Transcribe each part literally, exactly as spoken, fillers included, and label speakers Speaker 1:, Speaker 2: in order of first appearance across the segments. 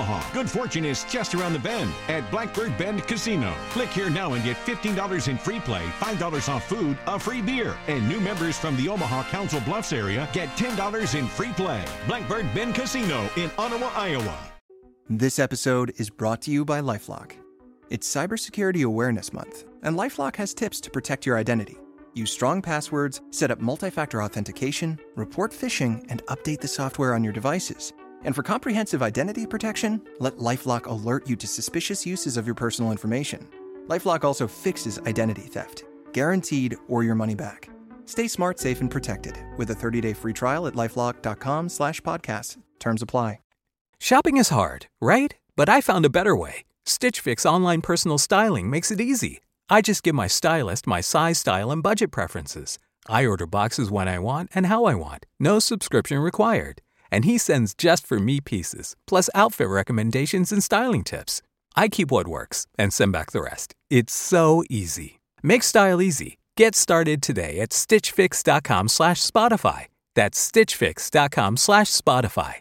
Speaker 1: Omaha. Good fortune is just around the bend at Blackbird Bend Casino. Click here now and get fifteen dollars in free play, five dollars off food, a free beer. And new members from the Omaha Council Bluffs area get ten dollars in free play. Blackbird Bend Casino in Ottawa, Iowa.
Speaker 2: This episode is brought to you by LifeLock. It's Cybersecurity Awareness Month, and LifeLock has tips to protect your identity. Use strong passwords, set up multi-factor authentication, report phishing, and update the software on your devices. And for comprehensive identity protection, let LifeLock alert you to suspicious uses of your personal information. LifeLock also fixes identity theft, guaranteed or your money back. Stay smart, safe, and protected with a thirty-day free trial at LifeLock.com slash podcast. Terms apply.
Speaker 3: Shopping is hard, right? But I found a better way. Stitch Fix online personal styling makes it easy. I just give my stylist my size, style, and budget preferences. I order boxes when I want and how I want. No subscription required. And he sends just for me pieces, plus outfit recommendations and styling tips. I keep what works and send back the rest. It's so easy. Make style easy. Get started today at stitchfix.com slash Spotify. That's stitchfix.com slash Spotify.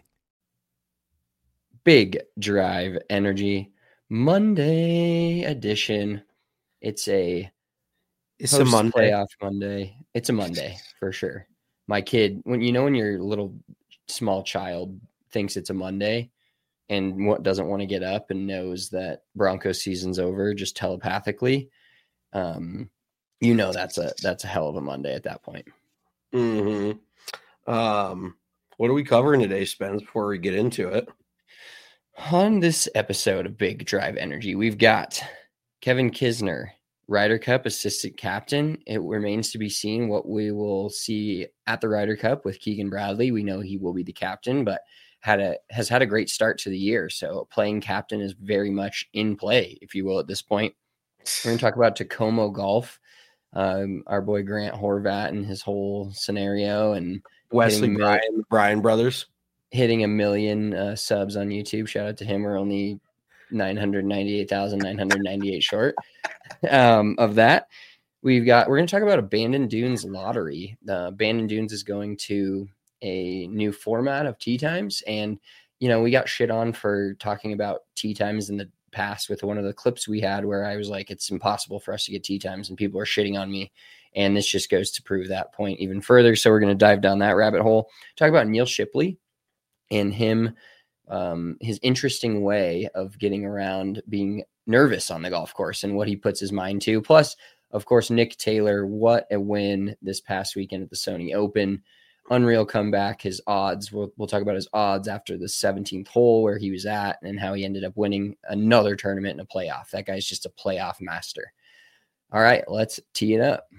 Speaker 4: Big Drive Energy Monday edition. It's a
Speaker 5: it's a Monday
Speaker 4: playoff Monday. It's a Monday for sure. My kid, when you know when your little small child thinks it's a Monday and what doesn't want to get up and knows that Broncos season's over just telepathically, um, you know that's a that's a hell of a Monday at that point.
Speaker 5: Mm-hmm. Um, what are we covering today, Spence? Before we get into it,
Speaker 4: on this episode of Big Drive Energy, we've got Kevin Kisner, Ryder Cup assistant captain. It remains to be seen what we will see at the Ryder Cup with Keegan Bradley. We know he will be the captain, but had a has had a great start to the year. So playing captain is very much in play, if you will, at this point. We're going to talk about Tacoma Golf, um, our boy Grant Horvat and his whole scenario, and
Speaker 5: Wesley Bryan, Bryan brothers
Speaker 4: hitting a million uh, subs on YouTube. Shout out to him. We're only nine hundred ninety-eight thousand nine hundred ninety-eight short um, of that. We've got, we're going to talk about Abandoned Dunes lottery. The Abandoned Dunes is going to a new format of tee times. And, you know, we got shit on for talking about tee times in the past with one of the clips we had where I was like, it's impossible for us to get tee times and people are shitting on me. And this just goes to prove that point even further. So we're going to dive down that rabbit hole, talk about Neil Shipley and him, Um, his interesting way of getting around being nervous on the golf course and what he puts his mind to. Plus, of course, Nick Taylor, what a win this past weekend at the Sony Open. Unreal comeback, his odds. We'll, we'll talk about his odds after the seventeenth hole where he was at and how he ended up winning another tournament in a playoff. That guy's just a playoff master. All right, let's tee it up.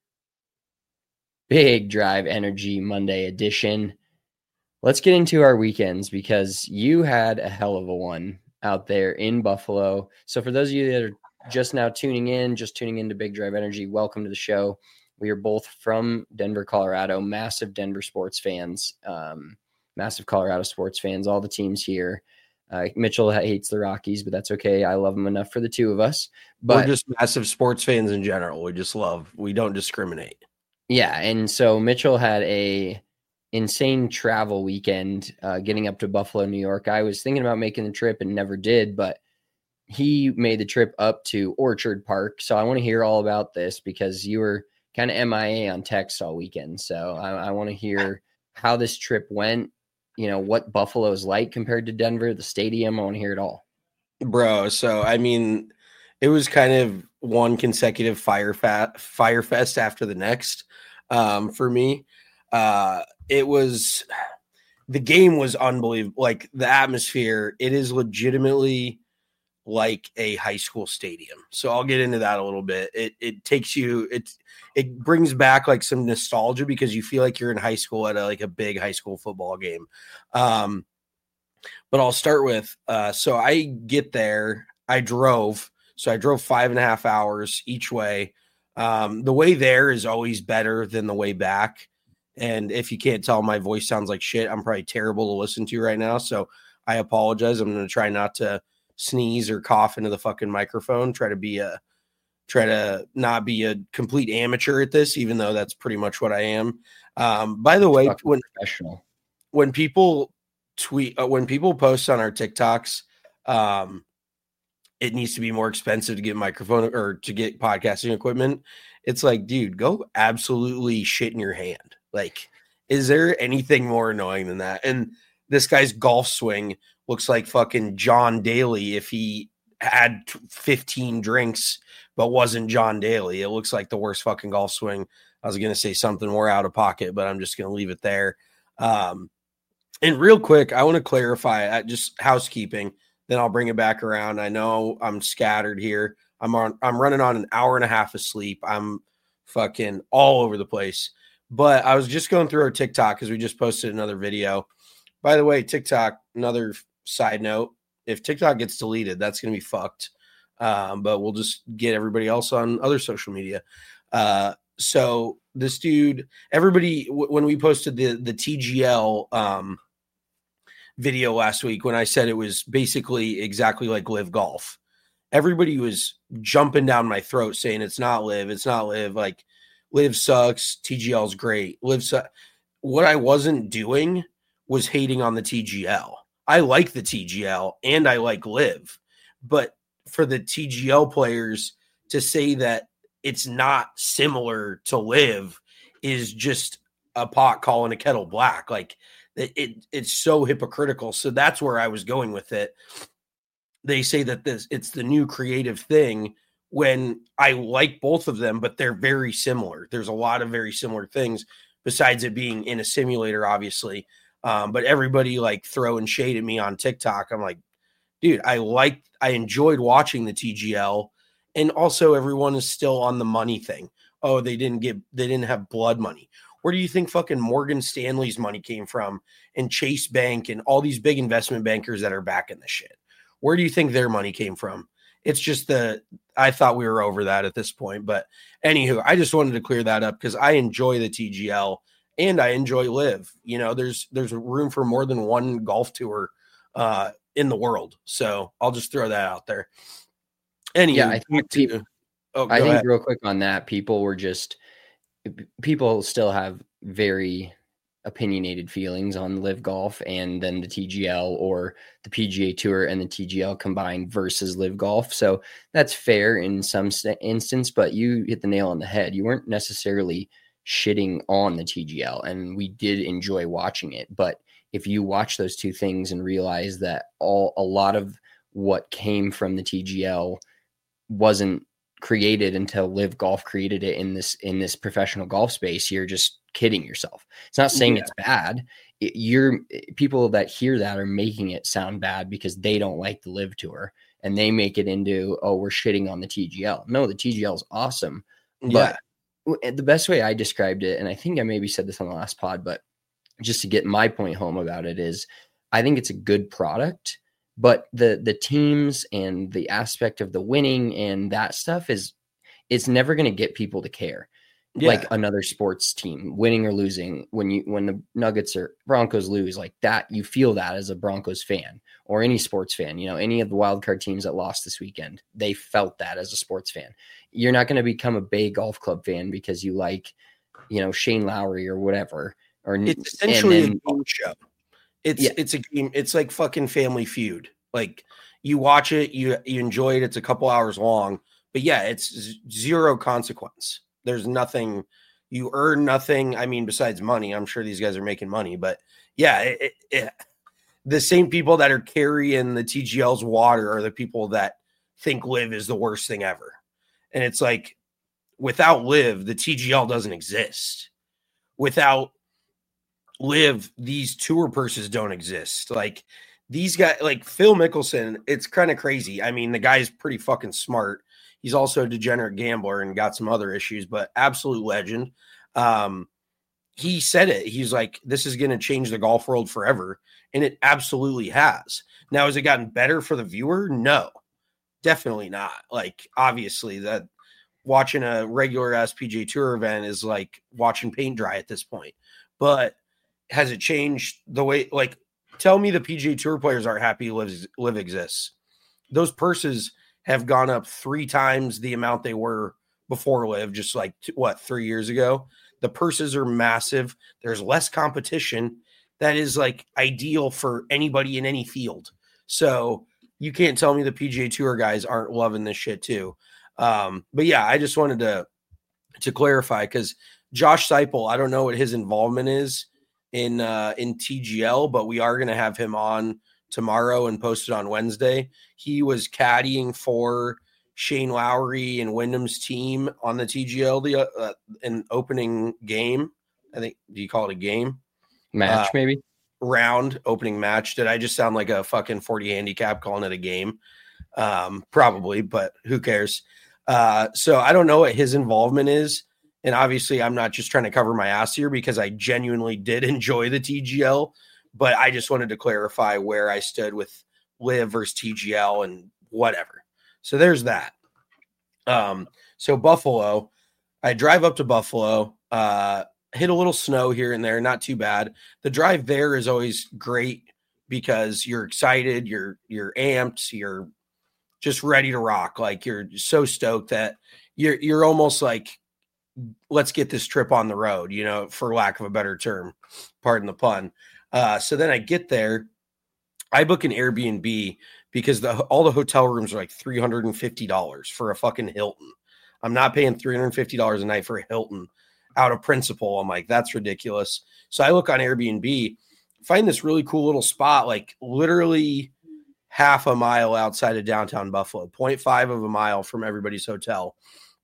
Speaker 4: Big Drive Energy Monday edition. Let's get into our weekends because you had a hell of a one out there in Buffalo. So for those of you that are just now tuning in, just tuning into Big Drive Energy, welcome to the show. We are both from Denver, Colorado, massive Denver sports fans, um, massive Colorado sports fans, all the teams here. Uh, Mitchell hates the Rockies, but that's okay. I love them enough for the two of us. But
Speaker 5: we're just massive sports fans in general. We just love, we don't discriminate.
Speaker 4: Yeah. And so Mitchell had a insane travel weekend uh, getting up to Buffalo, New York. I was thinking about making the trip and never did, but he made the trip up to Orchard Park. So I want to hear all about this because you were kind of M I A on text all weekend. So I, I want to hear how this trip went, you know, what Buffalo is like compared to Denver, the stadium. I want to hear it all.
Speaker 5: Bro, so I mean, it was kind of one consecutive fire fat fire fest after the next um, for me. Uh, it was, the game was unbelievable. Like the atmosphere, it is legitimately like a high school stadium. So I'll get into that a little bit. It it takes you, it it brings back like some nostalgia because you feel like you're in high school at a, like a big high school football game. Um, but I'll start with, uh, so I get there, I drove, so I drove five and a half hours each way. Um, the way there is always better than the way back. And if you can't tell, my voice sounds like shit. I'm probably terrible to listen to right now. So I apologize. I'm going to try not to sneeze or cough into the fucking microphone. Try to be a, try to not be a complete amateur at this, even though that's pretty much what I am. Um, by the way, when,
Speaker 4: professional.
Speaker 5: when people tweet, uh, when people post on our TikToks um, it needs to be more expensive to get microphone or to get podcasting equipment. It's like, dude, go absolutely shit in your hand. Like, is there anything more annoying than that? And this guy's golf swing looks like fucking John Daly if he had fifteen drinks but wasn't John Daly. It looks like the worst fucking golf swing. I was going to say something more out of pocket, but I'm just going to leave it there. Um, and real quick, I want to clarify uh, just housekeeping. Then I'll bring it back around. I know I'm scattered here. I'm on. I'm running on an hour and a half of sleep. I'm fucking all over the place. But I was just going through our TikTok because we just posted another video. By the way, TikTok, another side note, if TikTok gets deleted, that's going to be fucked. Um, but we'll just get everybody else on other social media. Uh, so this dude, everybody, w- when we posted the, the T G L um, video last week, when I said it was basically exactly like Live Golf, everybody was jumping down my throat saying it's not Live, it's not Live. Like, Live sucks, T G L's great. Live su- What I wasn't doing was hating on the T G L. I like the T G L and I like Live, but for the T G L players to say that it's not similar to Live is just a pot calling a kettle black. Like, it, it it's so hypocritical. So that's where I was going with it. They say that this it's the new creative thing when I like both of them, but they're very similar. There's a lot of very similar things besides it being in a simulator, obviously. Um, but everybody like throwing shade at me on TikTok. I'm like, dude, I like, I enjoyed watching the T G L. And also everyone is still on the money thing. Oh, they didn't get, they didn't have blood money. Where do you think fucking Morgan Stanley's money came from and Chase Bank and all these big investment bankers that are backing the shit? Where do you think their money came from? It's just the, I thought we were over that at this point. But anywho, I just wanted to clear that up because I enjoy the T G L. And I enjoy Live. You know, there's there's room for more than one golf tour uh, in the world. So I'll just throw that out there. Anyway,
Speaker 4: yeah, I think people,
Speaker 5: oh,
Speaker 4: I think
Speaker 5: ahead.
Speaker 4: real quick on that, people were just people still have very opinionated feelings on Live Golf and then the T G L or the P G A Tour and the T G L combined versus Live Golf. So that's fair in some st- instance, but you hit the nail on the head. You weren't necessarily shitting on the T G L, and we did enjoy watching it. But if you watch those two things and realize that all a lot of what came from the T G L wasn't created until Live Golf created it in this in this professional golf space, you're just kidding yourself. It's not saying yeah. it's bad. It, you're people that hear that are making it sound bad because they don't like the Live Tour and they make it into, oh, we're shitting on the T G L. No, the T G L is awesome,
Speaker 5: yeah.
Speaker 4: but the best way I described it, and I think I maybe said this on the last pod, but just to get my point home about it is I think it's a good product, but the the teams and the aspect of the winning and that stuff is it's never going to get people to care. Yeah. Like another sports team winning or losing, when you when the Nuggets or Broncos lose, like that, you feel that as a Broncos fan or any sports fan. You know, any of the wildcard teams that lost this weekend, they felt that as a sports fan. You're not going to become a Bay Golf Club fan because you like, you know, Shane Lowry or whatever. Or
Speaker 5: it's essentially
Speaker 4: then,
Speaker 5: a game show. It's
Speaker 4: yeah.
Speaker 5: it's a game. It's like fucking Family Feud. Like you watch it, you you enjoy it. It's a couple hours long, but yeah, it's z- zero consequence. There's nothing, you earn nothing. I mean, besides money, I'm sure these guys are making money, but yeah, it, it, it, the same people that are carrying the T G L's water are the people that think Live is the worst thing ever. And it's like, without Live, the T G L doesn't exist. Without Live, these tour purses don't exist. Like these guys, like Phil Mickelson, it's kind of crazy. I mean, the guy's pretty fucking smart. He's also a degenerate gambler and got some other issues, but absolute legend. Um, he said it. He's like, this is going to change the golf world forever. And it absolutely has. Now, has it gotten better for the viewer? No, definitely not. Like, obviously, that watching a regular ass P G A Tour event is like watching paint dry at this point. But has it changed the way, like, tell me the P G A Tour players aren't happy Live, Live exists. Those purses have gone up three times the amount they were before Live, just like, what, three years ago? The purses are massive. There's less competition. That is like ideal for anybody in any field. So you can't tell me the P G A Tour guys aren't loving this shit too. Um, but yeah, I just wanted to to clarify because Josh Seipel, I don't know what his involvement is in uh, in T G L, but we are going to have him on tomorrow and post it on Wednesday. He was caddying for Shane Lowry and Wyndham's team on the T G L the uh, an opening game. I think, do you call it a game?
Speaker 4: Match,
Speaker 5: uh,
Speaker 4: maybe?
Speaker 5: Round, opening match. Did I just sound like a fucking forty handicap calling it a game? Um, probably, but who cares? Uh, so I don't know what his involvement is. And obviously I'm not just trying to cover my ass here because I genuinely did enjoy the T G L, but I just wanted to clarify where I stood with Live versus T G L and whatever. So there's that. Um, so Buffalo, I drive up to Buffalo, uh, hit a little snow here and there, not too bad. The drive there is always great because you're excited, you're you're amped, you're just ready to rock. Like you're so stoked that you're you're almost like, let's get this trip on the road, you know, for lack of a better term, pardon the pun. Uh, so then I get there, I book an Airbnb because the all the hotel rooms are like three hundred fifty dollars for a fucking Hilton. I'm not paying three hundred fifty dollars a night for a Hilton out of principle. I'm like, that's ridiculous. So I look on Airbnb, find this really cool little spot, like literally half a mile outside of downtown Buffalo, zero point five of a mile from everybody's hotel.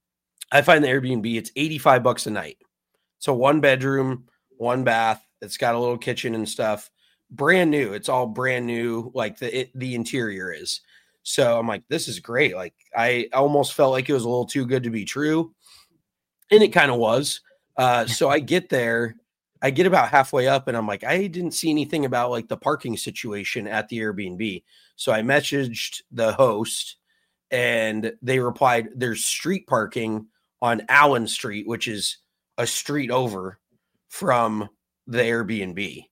Speaker 5: I find the Airbnb, it's eighty-five bucks a night. So one bedroom, one bath. It's got a little kitchen and stuff. Brand new. It's all brand new. Like the, it, the interior is. So I'm like, this is great. Like I almost felt like it was a little too good to be true. And it kind of was. Uh, so I get there, I get about halfway up and I'm like, I didn't see anything about like the parking situation at the Airbnb. So I messaged the host and they replied, there's street parking on Allen Street, which is a street over from the Airbnb.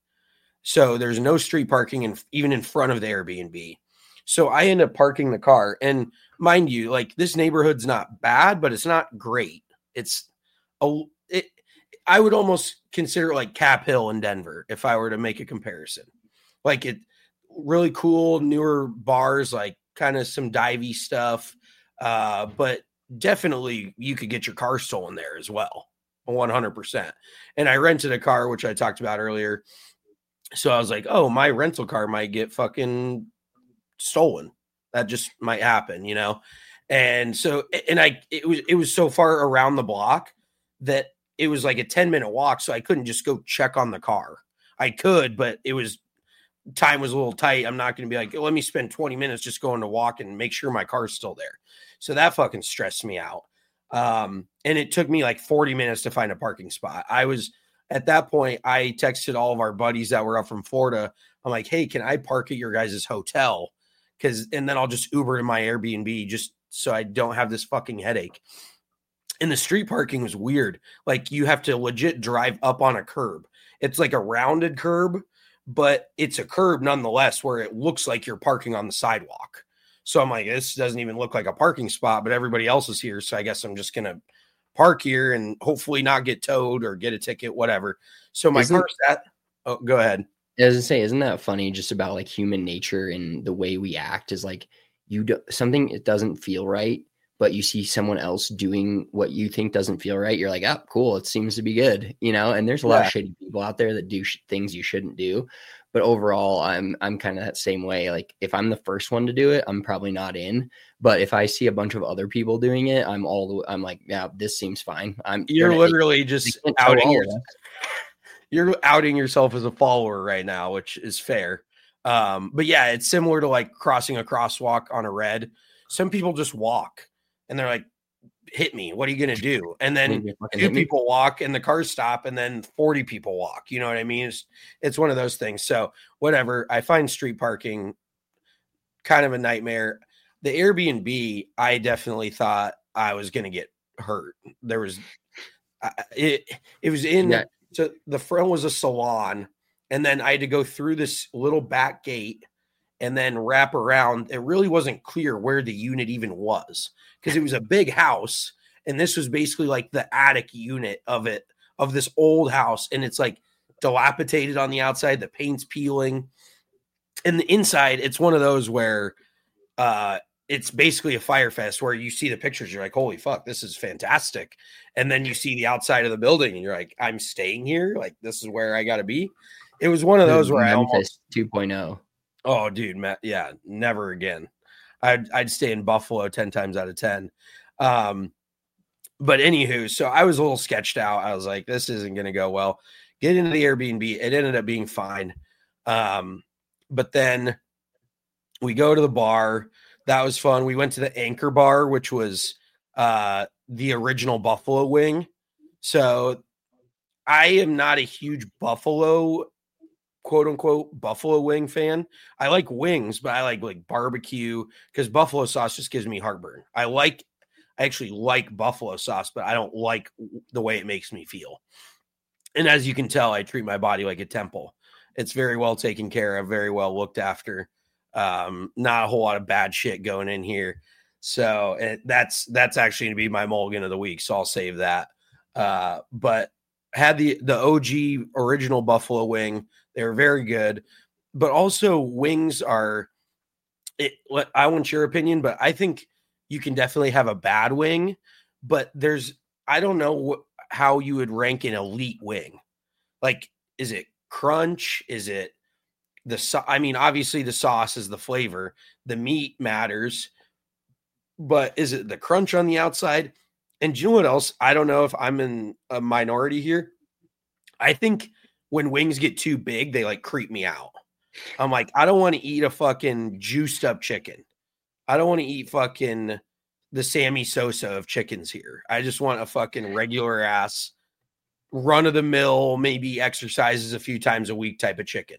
Speaker 5: So there's no street parking in, even in front of the Airbnb. So I end up parking the car. And mind you, like this neighborhood's not bad, but it's not great. It's a, it, I would almost consider it like Cap Hill in Denver if I were to make a comparison. Like it really cool, newer bars, like kind of some divey stuff. Uh, but definitely you could get your car stolen there as well. one hundred percent. And I rented a car, which I talked about earlier. So I was like, oh, my rental car might get fucking stolen. That just might happen, you know? And so, and I, it was, it was so far around the block that it was like a ten minute walk. So I couldn't just go check on the car. I could, but it was, time was a little tight. I'm not going to be like, let me spend twenty minutes just going to walk and make sure my car's still there. So that fucking stressed me out. Um, and it took me like forty minutes to find a parking spot. I was at that point, I texted all of our buddies that were up from Florida. I'm like, hey, can I park at your guys' hotel? Cause, and then I'll just Uber to my Airbnb just so I don't have this fucking headache. And the street parking was weird. Like you have to legit drive up on a curb. It's like a rounded curb, but it's a curb nonetheless, where it looks like you're parking on the sidewalk. So I'm like, this doesn't even look like a parking spot, but everybody else is here. So I guess I'm just going to park here and hopefully not get towed or get a ticket, whatever. So my
Speaker 4: Isn't,
Speaker 5: car's at, oh, go ahead.
Speaker 4: I was gonna say, isn't that funny just about like human nature and the way we act is like you do something, it doesn't feel right, but you see someone else doing what you think doesn't feel right. You're like, oh, cool. It seems to be good, you know? And there's a lot
Speaker 5: Yeah.
Speaker 4: of shitty people out there that do sh- things you shouldn't do. But overall, I'm I'm kind of that same way. Like if I'm the first one to do it, I'm probably not in. But if I see a bunch of other people doing it, I'm all the I'm like, yeah, this seems fine. I'm
Speaker 5: You're
Speaker 4: gonna-
Speaker 5: literally just
Speaker 4: they can't tell
Speaker 5: outing
Speaker 4: all
Speaker 5: your,
Speaker 4: of us.
Speaker 5: you're outing yourself as a follower right now, which is fair. Um, but yeah, it's similar to like crossing a crosswalk on a red. Some people just walk and they're like, hit me. What are you going to do? And then
Speaker 4: You fucking
Speaker 5: two
Speaker 4: hit me.
Speaker 5: people walk and the cars stop and then forty people walk. You know what I mean? It's, it's one of those things. So whatever. I find street parking kind of a nightmare. The Airbnb, I definitely thought I was going to get hurt. There was, I- it, it was in,
Speaker 4: Yeah.
Speaker 5: so the front was a salon. And then I had to go through this little back gate and then wrap around. It really wasn't clear where the unit even was because it was a big house. And this was basically like the attic unit of it, of this old house. And it's like dilapidated on the outside. The paint's peeling. And the inside, it's one of those where uh, it's basically a fire fest where you see the pictures. You're like, holy fuck, this is fantastic. And then you see the outside of the building and you're like, I'm staying here. Like, this is where I got to be. It was one of those where
Speaker 4: Memphis
Speaker 5: I almost
Speaker 4: two point oh.
Speaker 5: Oh, dude, Matt, yeah, never again. I'd I'd stay in Buffalo ten times out of ten. Um, but anywho, so I was a little sketched out. I was like, this isn't going to go well. Get into the Airbnb. It ended up being fine. Um, but then we go to the bar. That was fun. We went to the Anchor Bar, which was uh, the original Buffalo Wing. So I am not a huge Buffalo quote unquote Buffalo Wing fan. I like wings, but I like like barbecue because buffalo sauce just gives me heartburn. I like, I actually like buffalo sauce, but I don't like the way it makes me feel. And as you can tell, I treat my body like a temple. It's very well taken care of, very well looked after. Um, not a whole lot of bad shit going in here. So it, that's, that's actually going to be my mulligan of the week. So I'll save that. Uh, but had the, the O G original buffalo wing. They were very good, but also wings are it. I want your opinion, but I think you can definitely have a bad wing, but there's, I don't know wh- how you would rank an elite wing. Like, is it crunch? Is it the, so- I mean, obviously the sauce is the flavor, the meat matters, but is it the crunch on the outside? And do you know what else? I don't know if I'm in a minority here. I think when wings get too big, they like creep me out. I'm like, I don't want to eat a fucking juiced up chicken. I don't want to eat fucking the Sammy Sosa of chickens here. I just want a fucking regular ass run of the mill, maybe exercises a few times a week type of chicken.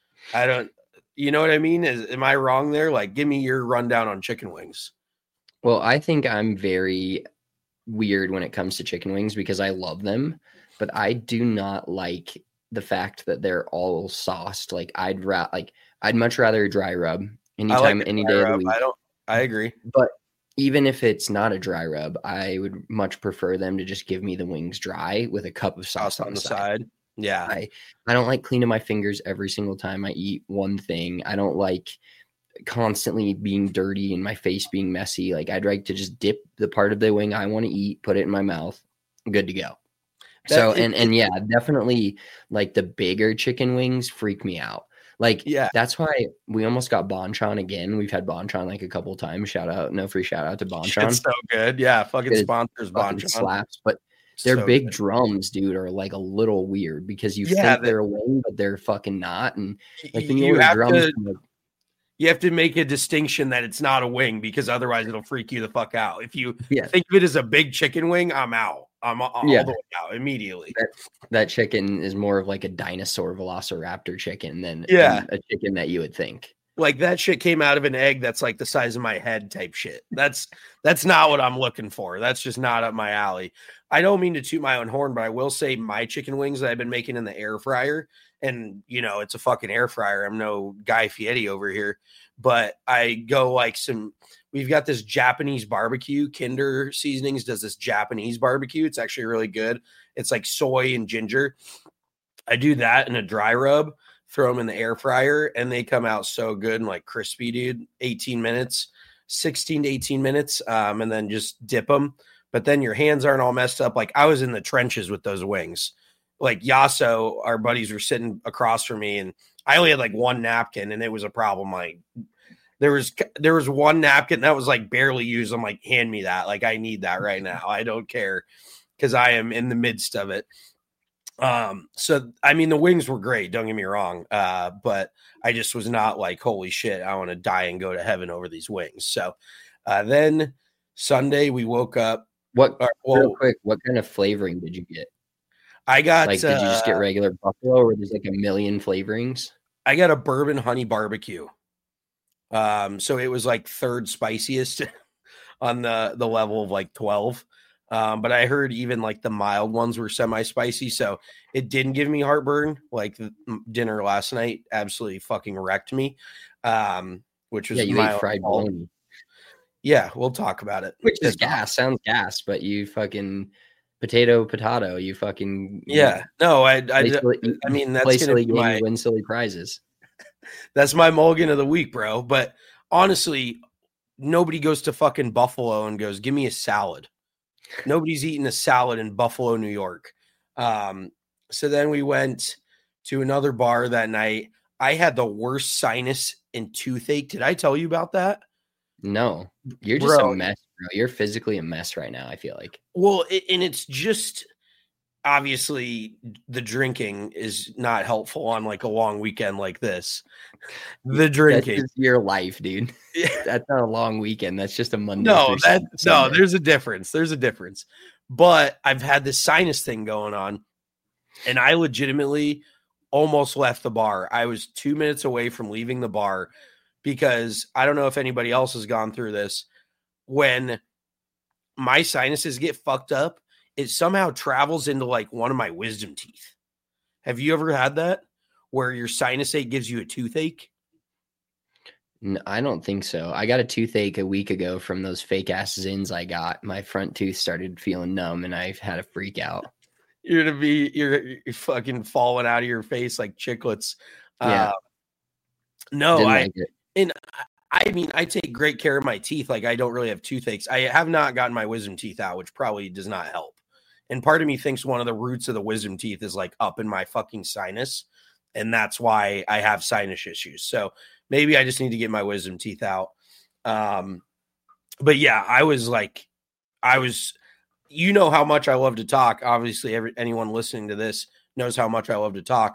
Speaker 5: I don't, you know what I mean? Is, am I wrong there? Like, give me your rundown on chicken wings.
Speaker 4: Well, I think I'm very weird when it comes to chicken wings because I love them, but I do not like the fact that they're all sauced. Like I'd ra- like I'd much rather a dry rub anytime,
Speaker 5: like
Speaker 4: any day
Speaker 5: rub.
Speaker 4: of the week.
Speaker 5: I don't. I agree.
Speaker 4: But even if it's not a dry rub, I would much prefer them to just give me the wings dry with a cup of sauce, sauce on the side. side.
Speaker 5: Yeah,
Speaker 4: I I don't like cleaning my fingers every single time I eat one thing. I don't like constantly being dirty and my face being messy. Like I'd like to just dip the part of the wing I want to eat, put it in my mouth, good to go. That, so, and, and yeah, definitely like the bigger chicken wings freak me out. Like, yeah, that's why we almost got Bonchon again. We've had Bonchon like a couple times. Shout out, no free shout out to Bonchon.
Speaker 5: It's so good. Yeah. Fucking sponsors Bonchon.
Speaker 4: Slaps, but their so big good. drums, dude, are like a little weird because you yeah, think they, they're a wing, but they're fucking not. And like when you, you order drums,
Speaker 5: to, like, you have to make a distinction that it's not a wing because otherwise it'll freak you the fuck out. If you yeah. think of it as a big chicken wing, I'm out. I'm all yeah. the way out immediately.
Speaker 4: That, that chicken is more of like a dinosaur velociraptor chicken than,
Speaker 5: yeah.
Speaker 4: than a chicken that you would think.
Speaker 5: Like that shit came out of an egg that's like the size of my head type shit. That's that's not what I'm looking for. That's just not up my alley. I don't mean to toot my own horn, but I will say my chicken wings that I've been making in the air fryer, and you know, it's a fucking air fryer. I'm no Guy Fieri over here, but I go like some, we've got this Japanese barbecue. Kinder Seasonings does this Japanese barbecue. It's actually really good. It's like soy and ginger. I do that in a dry rub, throw them in the air fryer, and they come out so good and like crispy, dude. eighteen minutes, sixteen to eighteen minutes, um, and then just dip them. But then your hands aren't all messed up. Like I was in the trenches with those wings. Like Yasso, our buddies were sitting across from me, and I only had like one napkin, and it was a problem. Like there was there was one napkin that was like barely used. I'm like, hand me that. Like I need that right now. I don't care because I am in the midst of it. Um, so I mean the wings were great, don't get me wrong. Uh, but I just was not like, holy shit, I want to die and go to heaven over these wings. So uh, then Sunday we woke up.
Speaker 4: What uh, well, real quick, what kind of flavoring did you get?
Speaker 5: I got
Speaker 4: like, did you just get regular buffalo or there's like a million flavorings?
Speaker 5: I got a bourbon honey barbecue. Um, so it was like third spiciest on the, the level of like twelve. Um, but I heard even like the mild ones were semi-spicy. So it didn't give me heartburn. Like the dinner last night absolutely fucking wrecked me. Um, which was
Speaker 4: yeah, you ate fried bologna.
Speaker 5: Yeah, we'll talk about it.
Speaker 4: Which is gas, sounds gas, but you fucking potato, potato, you fucking
Speaker 5: yeah.
Speaker 4: You
Speaker 5: no, I, I, silly, I mean that's gonna be my
Speaker 4: win silly prizes.
Speaker 5: That's my mulligan of the week, bro. But honestly, nobody goes to fucking Buffalo and goes, give me a salad. Nobody's eating a salad in Buffalo, New York. Um, so then we went to another bar that night. I had the worst sinus and toothache. Did I tell you about that?
Speaker 4: No, you're just
Speaker 5: Bro.
Speaker 4: a mess, bro. You're physically a mess right now, I feel like.
Speaker 5: Well, it, and it's just obviously the drinking is not helpful on like a long weekend like this. The drinking.
Speaker 4: That's just your life, dude. That's not a long weekend. That's just a Monday.
Speaker 5: No,
Speaker 4: through
Speaker 5: that
Speaker 4: Sunday.
Speaker 5: no, there's a difference. There's a difference. But I've had this sinus thing going on, and I legitimately almost left the bar. I was two minutes away from leaving the bar because I don't know if anybody else has gone through this. When my sinuses get fucked up, it somehow travels into like one of my wisdom teeth. Have you ever had that where your sinus ache gives you a toothache?
Speaker 4: No, I don't think so. I got a toothache a week ago from those fake ass Zins I got. My front tooth started feeling numb and I had a freak out.
Speaker 5: You're gonna be you're, you're fucking falling out of your face like chiclets.
Speaker 4: Yeah.
Speaker 5: Uh, no,
Speaker 4: Didn't
Speaker 5: I
Speaker 4: like it.
Speaker 5: and I mean I take great care of my teeth. Like I don't really have toothaches. I have not gotten my wisdom teeth out, which probably does not help. And part of me thinks one of the roots of the wisdom teeth is like up in my fucking sinus, and that's why I have sinus issues. So maybe I just need to get my wisdom teeth out. Um, but yeah, I was like, I was. You know how much I love to talk. Obviously, every, anyone listening to this knows how much I love to talk.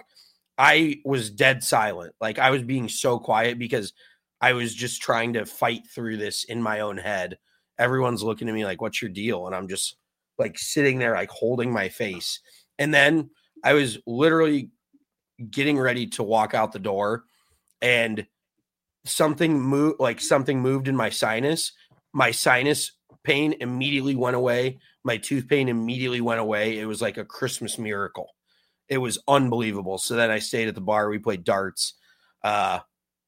Speaker 5: I was dead silent. Like I was being so quiet because I was just trying to fight through this in my own head. Everyone's looking at me like, what's your deal? And I'm just like sitting there, like holding my face. And then I was literally getting ready to walk out the door and something moved, like something moved in my sinus. My sinus pain immediately went away. My tooth pain immediately went away. It was like a Christmas miracle. It was unbelievable. So then I stayed at the bar. We played darts. Uh,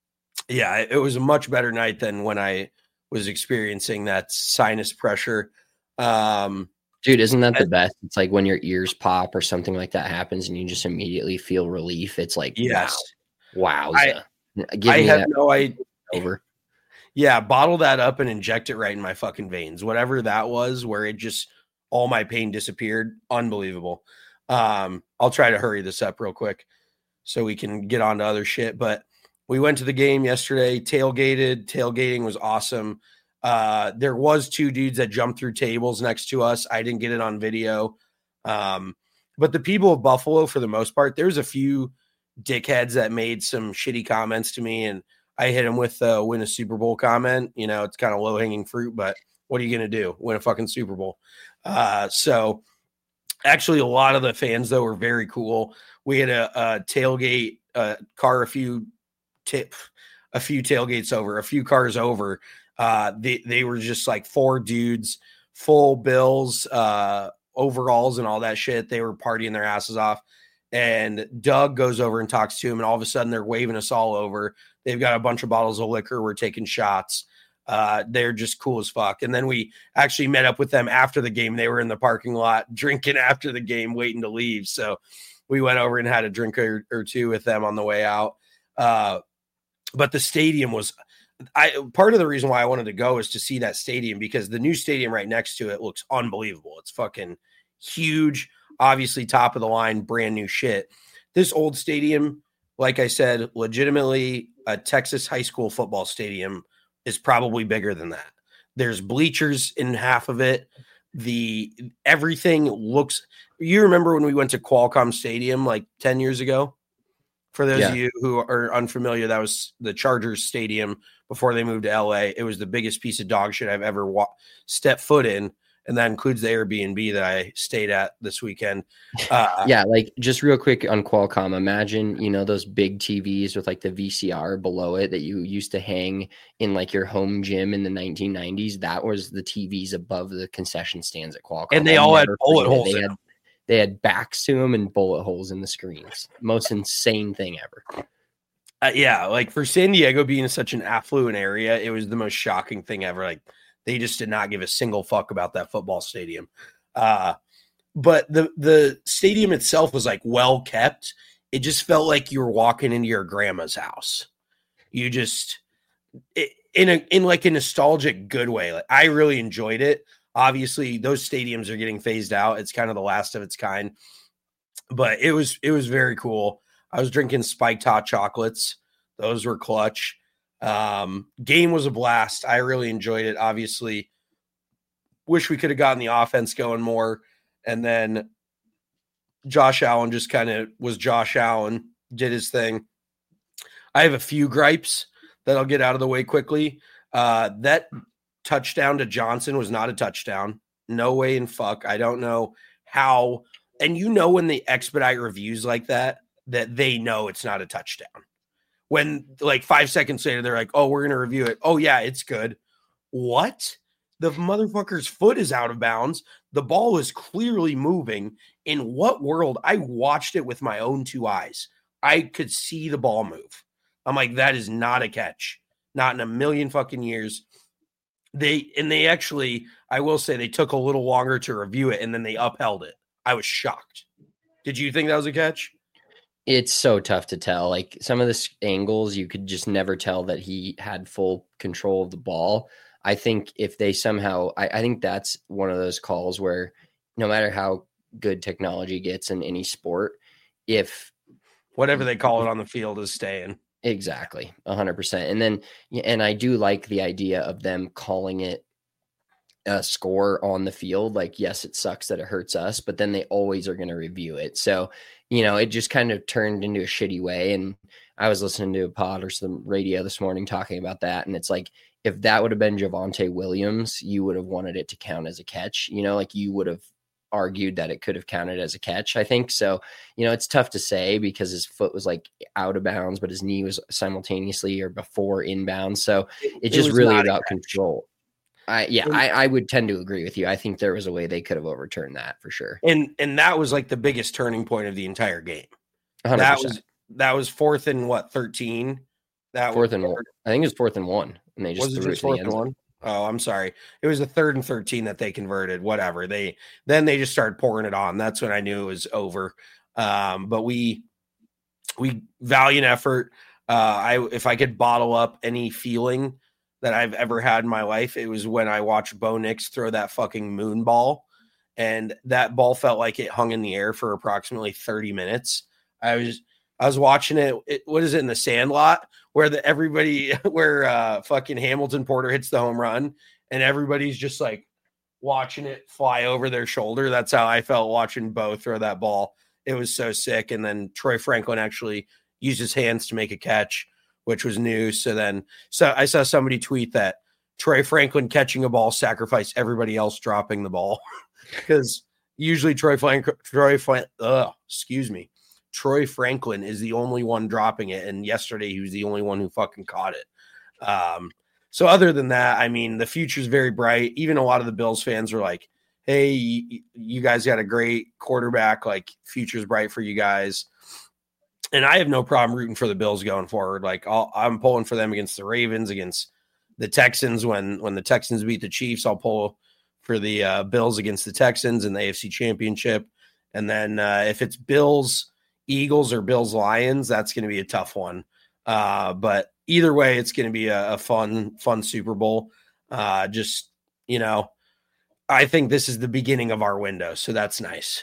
Speaker 5: yeah, it was a much better night than when I was experiencing that sinus pressure. Um,
Speaker 4: Dude, isn't that the best? It's like when your ears pop or something like that happens and you just immediately feel relief. It's like,
Speaker 5: yes.
Speaker 4: wow.
Speaker 5: I,
Speaker 4: Give
Speaker 5: I
Speaker 4: me
Speaker 5: have
Speaker 4: that
Speaker 5: no idea.
Speaker 4: over.
Speaker 5: Yeah, bottle that up and inject it right in my fucking veins. Whatever that was, where it just all my pain disappeared. Unbelievable. Um, I'll try to hurry this up real quick so we can get on to other shit. But we went to the game yesterday, tailgated. Tailgating was awesome. Uh, there was two dudes that jumped through tables next to us. I didn't get it on video. Um, but the people of Buffalo, for the most part, there's a few dickheads that made some shitty comments to me, and I hit him with the win a Super Bowl comment. You know, it's kind of low hanging fruit, but what are you going to do? Win a fucking Super Bowl. Uh, so actually a lot of the fans though were very cool. We had a, a tailgate uh, car, a few tip, a few tailgates over, a few cars over. Uh, they, they were just like four dudes, full bills, uh, overalls and all that shit. They were partying their asses off. And Doug goes over and talks to him, and all of a sudden they're waving us all over. They've got a bunch of bottles of liquor. We're taking shots. Uh, they're just cool as fuck. And then we actually met up with them after the game. They were in the parking lot drinking after the game, waiting to leave. So we went over and had a drink or, or two with them on the way out. Uh, but the stadium was I part of the reason why I wanted to go is to see that stadium, because the new stadium right next to it looks unbelievable. It's fucking huge. Obviously top of the line, brand new shit. This old stadium, like I said, legitimately a Texas high school football stadium is probably bigger than that. There's bleachers in half of it. The everything looks, you remember when we went to Qualcomm Stadium like ten years ago? For those
Speaker 4: Yeah.
Speaker 5: of you who are unfamiliar, that was the Chargers stadium before they moved to L A. It was the biggest piece of dog shit I've ever wa- stepped foot in. And that includes the Airbnb that I stayed at this weekend. Uh,
Speaker 4: Yeah, like just real quick on Qualcomm, imagine, you know, those big T Vs with like the V C R below it that you used to hang in like your home gym in the nineteen nineties. That was the T Vs above the concession stands at Qualcomm.
Speaker 5: And they
Speaker 4: I'll
Speaker 5: all had
Speaker 4: never
Speaker 5: bullet
Speaker 4: forget it.
Speaker 5: holes
Speaker 4: They
Speaker 5: in
Speaker 4: had,
Speaker 5: them.
Speaker 4: they had backs to them and bullet holes in the screens. Most insane thing ever.
Speaker 5: Uh, yeah, like for San Diego being such an affluent area, it was the most shocking thing ever. Like they just did not give a single fuck about that football stadium. Uh, but the the stadium itself was like well kept. It just felt like you were walking into your grandma's house. You just it, in a in like a nostalgic good way. Like, I really enjoyed it. Obviously, those stadiums are getting phased out. It's kind of the last of its kind, but it was it was very cool. I was drinking spiked hot chocolates. Those were clutch. Um, game was a blast. I really enjoyed it. Obviously, wish we could have gotten the offense going more. And then Josh Allen just kind of was Josh Allen, did his thing. I have a few gripes that I'll get out of the way quickly. Uh, that touchdown to Johnson was not a touchdown. No way in fuck. I don't know how. And you know when they expedite reviews like that, that they know it's not a touchdown. When like five seconds later, they're like, oh, we're going to review it. Oh, yeah, it's good. What? The motherfucker's foot is out of bounds. The ball is clearly moving. In what world? I watched it with my own two eyes. I could see the ball move. I'm like, that is not a catch. Not in a million fucking years. They and they actually, I will say, they took a little longer to review it, and then they upheld it. I was shocked. Did you think that was a catch?
Speaker 4: It's so tough to tell. Like some of the angles, you could just never tell that he had full control of the ball. I think if they somehow, I, I think that's one of those calls where no matter how good technology gets in any sport, if
Speaker 5: whatever they call it on the field is staying.
Speaker 4: Exactly. A hundred percent. And then, and I do like the idea of them calling it a score on the field. Like, yes, it sucks that it hurts us, but then they always are going to review it. So, you know, it just kind of turned into a shitty way. And I was listening to a pod or some radio this morning talking about that. And it's like, if that would have been Javonte Williams, you would have wanted it to count as a catch, you know, like you would have argued that it could have counted as a catch, I think. So, you know, it's tough to say because his foot was like out of bounds, but his knee was simultaneously or before inbounds. So it's just it really about control. I, yeah, and, I, I would tend to agree with you. I think there was a way they could have overturned that for sure.
Speaker 5: And and that was like the biggest turning point of the entire game.
Speaker 4: one hundred percent.
Speaker 5: That was that was fourth and what, thirteen? That
Speaker 4: fourth and one. I think it was fourth and one, and they just
Speaker 5: was
Speaker 4: threw
Speaker 5: it just
Speaker 4: it to
Speaker 5: fourth
Speaker 4: the
Speaker 5: and
Speaker 4: end
Speaker 5: one. Oh, I'm sorry. It was the third and thirteen that they converted. Whatever they then they just started pouring it on. That's when I knew it was over. Um, but we we valiant effort. Uh, I if I could bottle up any feeling that I've ever had in my life, it was when I watched Bo Nix throw that fucking moon ball, and that ball felt like it hung in the air for approximately thirty minutes. I was I was watching it. it what is it in the Sandlot where the everybody where uh, fucking Hamilton Porter hits the home run and everybody's just like watching it fly over their shoulder. That's how I felt watching Bo throw that ball. It was so sick. And then Troy Franklin actually used his hands to make a catch, which was new. So then, so I saw somebody tweet that Troy Franklin catching a ball sacrificed everybody else dropping the ball because usually Troy Franklin, Troy, uh, excuse me, Troy Franklin is the only one dropping it. And yesterday he was the only one who fucking caught it. Um, so other than that, I mean, the future's very bright. Even a lot of the Bills fans were like, hey, you, you guys got a great quarterback. Like, future's bright for you guys. And I have no problem rooting for the Bills going forward. Like I'll, I'm pulling for them against the Ravens, against the Texans. When when the Texans beat the Chiefs, I'll pull for the uh, Bills against the Texans in the A F C Championship. And then uh, if it's Bills, Eagles, or Bills, Lions, that's going to be a tough one. Uh, but either way, it's going to be a, a fun, fun Super Bowl. Uh, just, you know, I think this is the beginning of our window. So that's nice.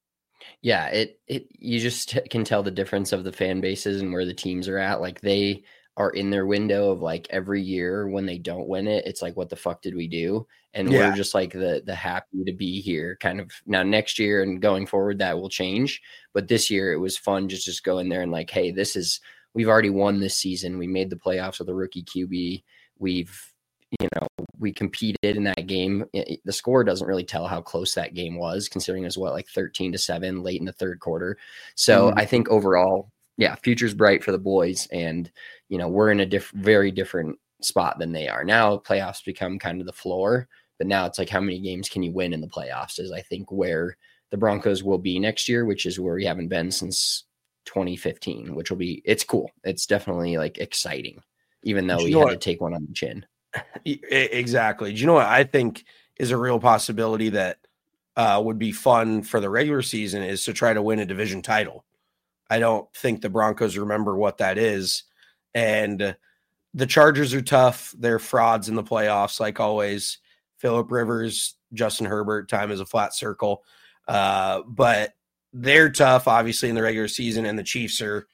Speaker 4: Yeah, it it you just t- can tell the difference of the fan bases and where the teams are at. Like they are in their window of like every year when they don't win it, it's like, what the fuck did we do? And yeah. we're just like the the happy to be here kind of. Now next year and going forward that will change, but this year it was fun just just go in there and like, hey, this is we've already won this season. We made the playoffs with a rookie Q B. We've you know, we competed in that game. It, the score doesn't really tell how close that game was, considering it was what, like thirteen to seven late in the third quarter. So mm-hmm. I think overall, yeah, future's bright for the boys. And, you know, we're in a diff- very different spot than they are. Now playoffs become kind of the floor, but now it's like, how many games can you win in the playoffs is I think where the Broncos will be next year, which is where we haven't been since twenty fifteen, which will be, it's cool. It's definitely like exciting, even though we had what? to take one on the chin.
Speaker 5: Exactly. Do you know what I think is a real possibility that uh, would be fun for the regular season is to try to win a division title. I don't think the Broncos remember what that is. And the Chargers are tough. They're frauds in the playoffs, like always. Phillip Rivers, Justin Herbert, time is a flat circle. Uh, but they're tough, obviously, in the regular season, and the Chiefs are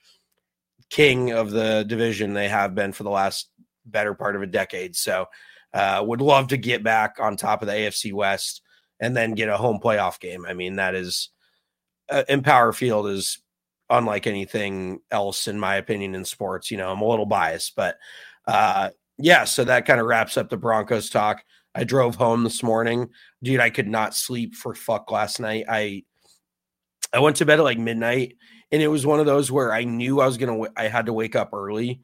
Speaker 5: king of the division. They have been for the last better part of a decade. So uh, would love to get back on top of the A F C West and then get a home playoff game. I mean, that is uh, Empower Field is unlike anything else, in my opinion, in sports. You know, I'm a little biased, but uh, yeah, so that kind of wraps up the Broncos talk. I drove home this morning. Dude, I could not sleep for fuck last night. I I went to bed at like midnight, and it was one of those where I knew I was going to, I had to wake up early.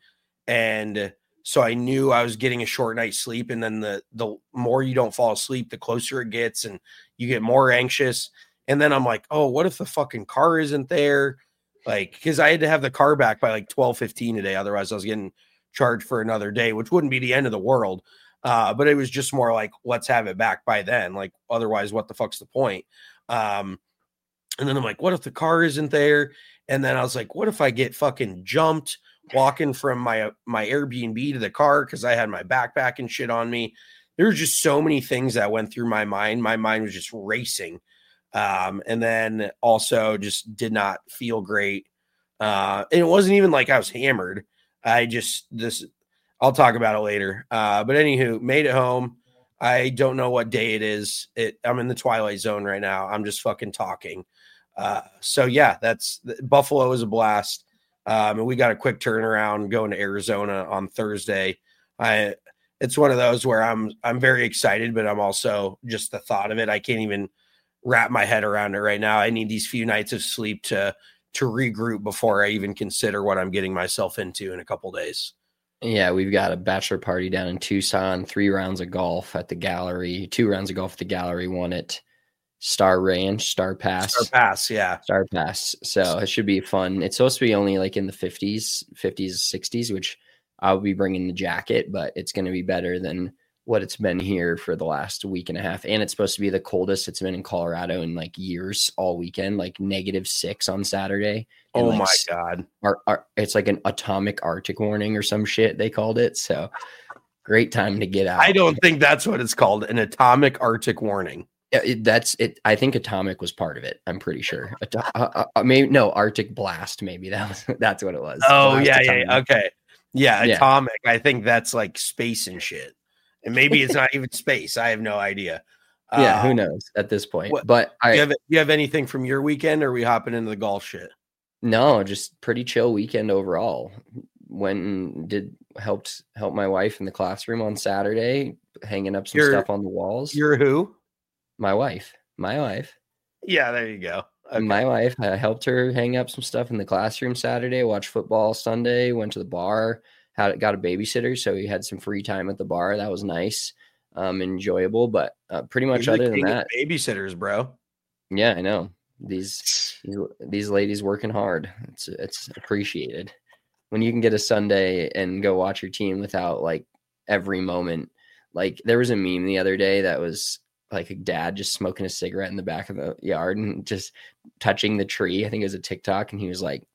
Speaker 5: And so I knew I was getting a short night's sleep. And then the, the more you don't fall asleep, the closer it gets and you get more anxious. And then I'm like, oh, what if the fucking car isn't there? Like, cause I had to have the car back by like twelve fifteen today. Otherwise I was getting charged for another day, which wouldn't be the end of the world. Uh, but it was just more like, let's have it back by then. Like, otherwise, what the fuck's the point? Um, and then I'm like, what if the car isn't there? And then I was like, what if I get fucking jumped walking from my, my Airbnb to the car? Cause I had my backpack and shit on me. There were just so many things that went through my mind. My mind was just racing. Um, and then also just did not feel great. Uh, and it wasn't even like I was hammered. I just, this, I'll talk about it later. Uh, but anywho, made it home. I don't know what day it is. It, I'm in the twilight zone right now. I'm just fucking talking. Uh, so yeah, that's Buffalo is a blast. Um, and we got a quick turnaround going to Arizona on Thursday. I, it's one of those where I'm, I'm very excited, but I'm also just the thought of it. I can't even wrap my head around it right now. I need these few nights of sleep to, to regroup before I even consider what I'm getting myself into in a couple days.
Speaker 4: Yeah, we've got a bachelor party down in Tucson, three rounds of golf at the gallery, two rounds of golf at the gallery, one at Star Ranch, Star Pass.
Speaker 5: Star Pass, yeah.
Speaker 4: Star Pass. So it should be fun. It's supposed to be only like in the fifties, fifties, sixties, which I'll be bringing the jacket, but it's going to be better than what it's been here for the last week and a half. And it's supposed to be the coldest it's been in Colorado in like years all weekend, like negative six on Saturday.
Speaker 5: Oh
Speaker 4: like,
Speaker 5: my God.
Speaker 4: Our, our, it's like an atomic Arctic warning or some shit they called it. So great time to get out.
Speaker 5: I don't think that's what it's called. An atomic Arctic warning.
Speaker 4: Yeah, it, that's it. I think atomic was part of it. I'm pretty sure. Ato- uh, uh, maybe no Arctic blast. Maybe that was, that's what it was.
Speaker 5: Oh
Speaker 4: blast
Speaker 5: yeah.
Speaker 4: atomic.
Speaker 5: Yeah. Okay. Yeah.
Speaker 4: Yeah.
Speaker 5: Atomic. I think that's like space and shit. And maybe it's not even space. I have no idea.
Speaker 4: Yeah,
Speaker 5: uh,
Speaker 4: who knows at this point?
Speaker 5: What,
Speaker 4: but I
Speaker 5: you have you have anything from your weekend, or are we hopping into the golf shit?
Speaker 4: No, just pretty chill weekend overall. Went and did helped help my wife in the classroom on Saturday, hanging up some
Speaker 5: You're-
Speaker 4: stuff on the walls.
Speaker 5: You're who?
Speaker 4: My wife, my wife,
Speaker 5: Yeah, there you go. Okay.
Speaker 4: my wife. I helped her hang up some stuff in the classroom Saturday. Watched football Sunday. Went to the bar. Had got a babysitter, so we had some free time at the bar. That was nice, um, enjoyable. But uh, pretty much
Speaker 5: You're the
Speaker 4: other than
Speaker 5: king of
Speaker 4: that,
Speaker 5: babysitters, bro.
Speaker 4: yeah, I know these these, these ladies working hard. It's it's appreciated when you can get a Sunday and go watch your team without like every moment. Like there was a meme the other day that was like a dad just smoking a cigarette in the back of the yard and just touching the tree. I think it was a TikTok, and he was like,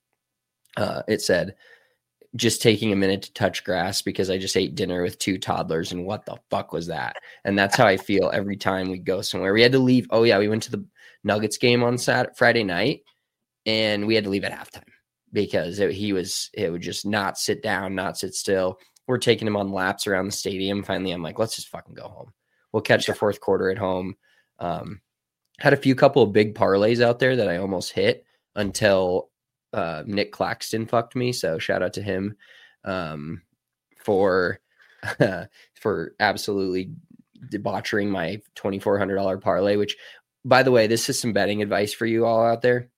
Speaker 4: uh, it said, just taking a minute to touch grass because I just ate dinner with two toddlers, and what the fuck was that? And that's how I feel every time we go somewhere. We had to leave. Oh yeah, we went to the Nuggets game on Saturday, Friday night, and we had to leave at halftime because it, he was, it would just not sit down, not sit still. We're taking him on laps around the stadium. Finally, I'm like, let's just fucking go home. We'll catch the fourth quarter at home. Um, had a few couple of big parlays out there that I almost hit until uh, Nick Claxton fucked me. So shout out to him um, for uh, for absolutely debauchering my twenty-four hundred dollars parlay, which, by the way, this is some betting advice for you all out there.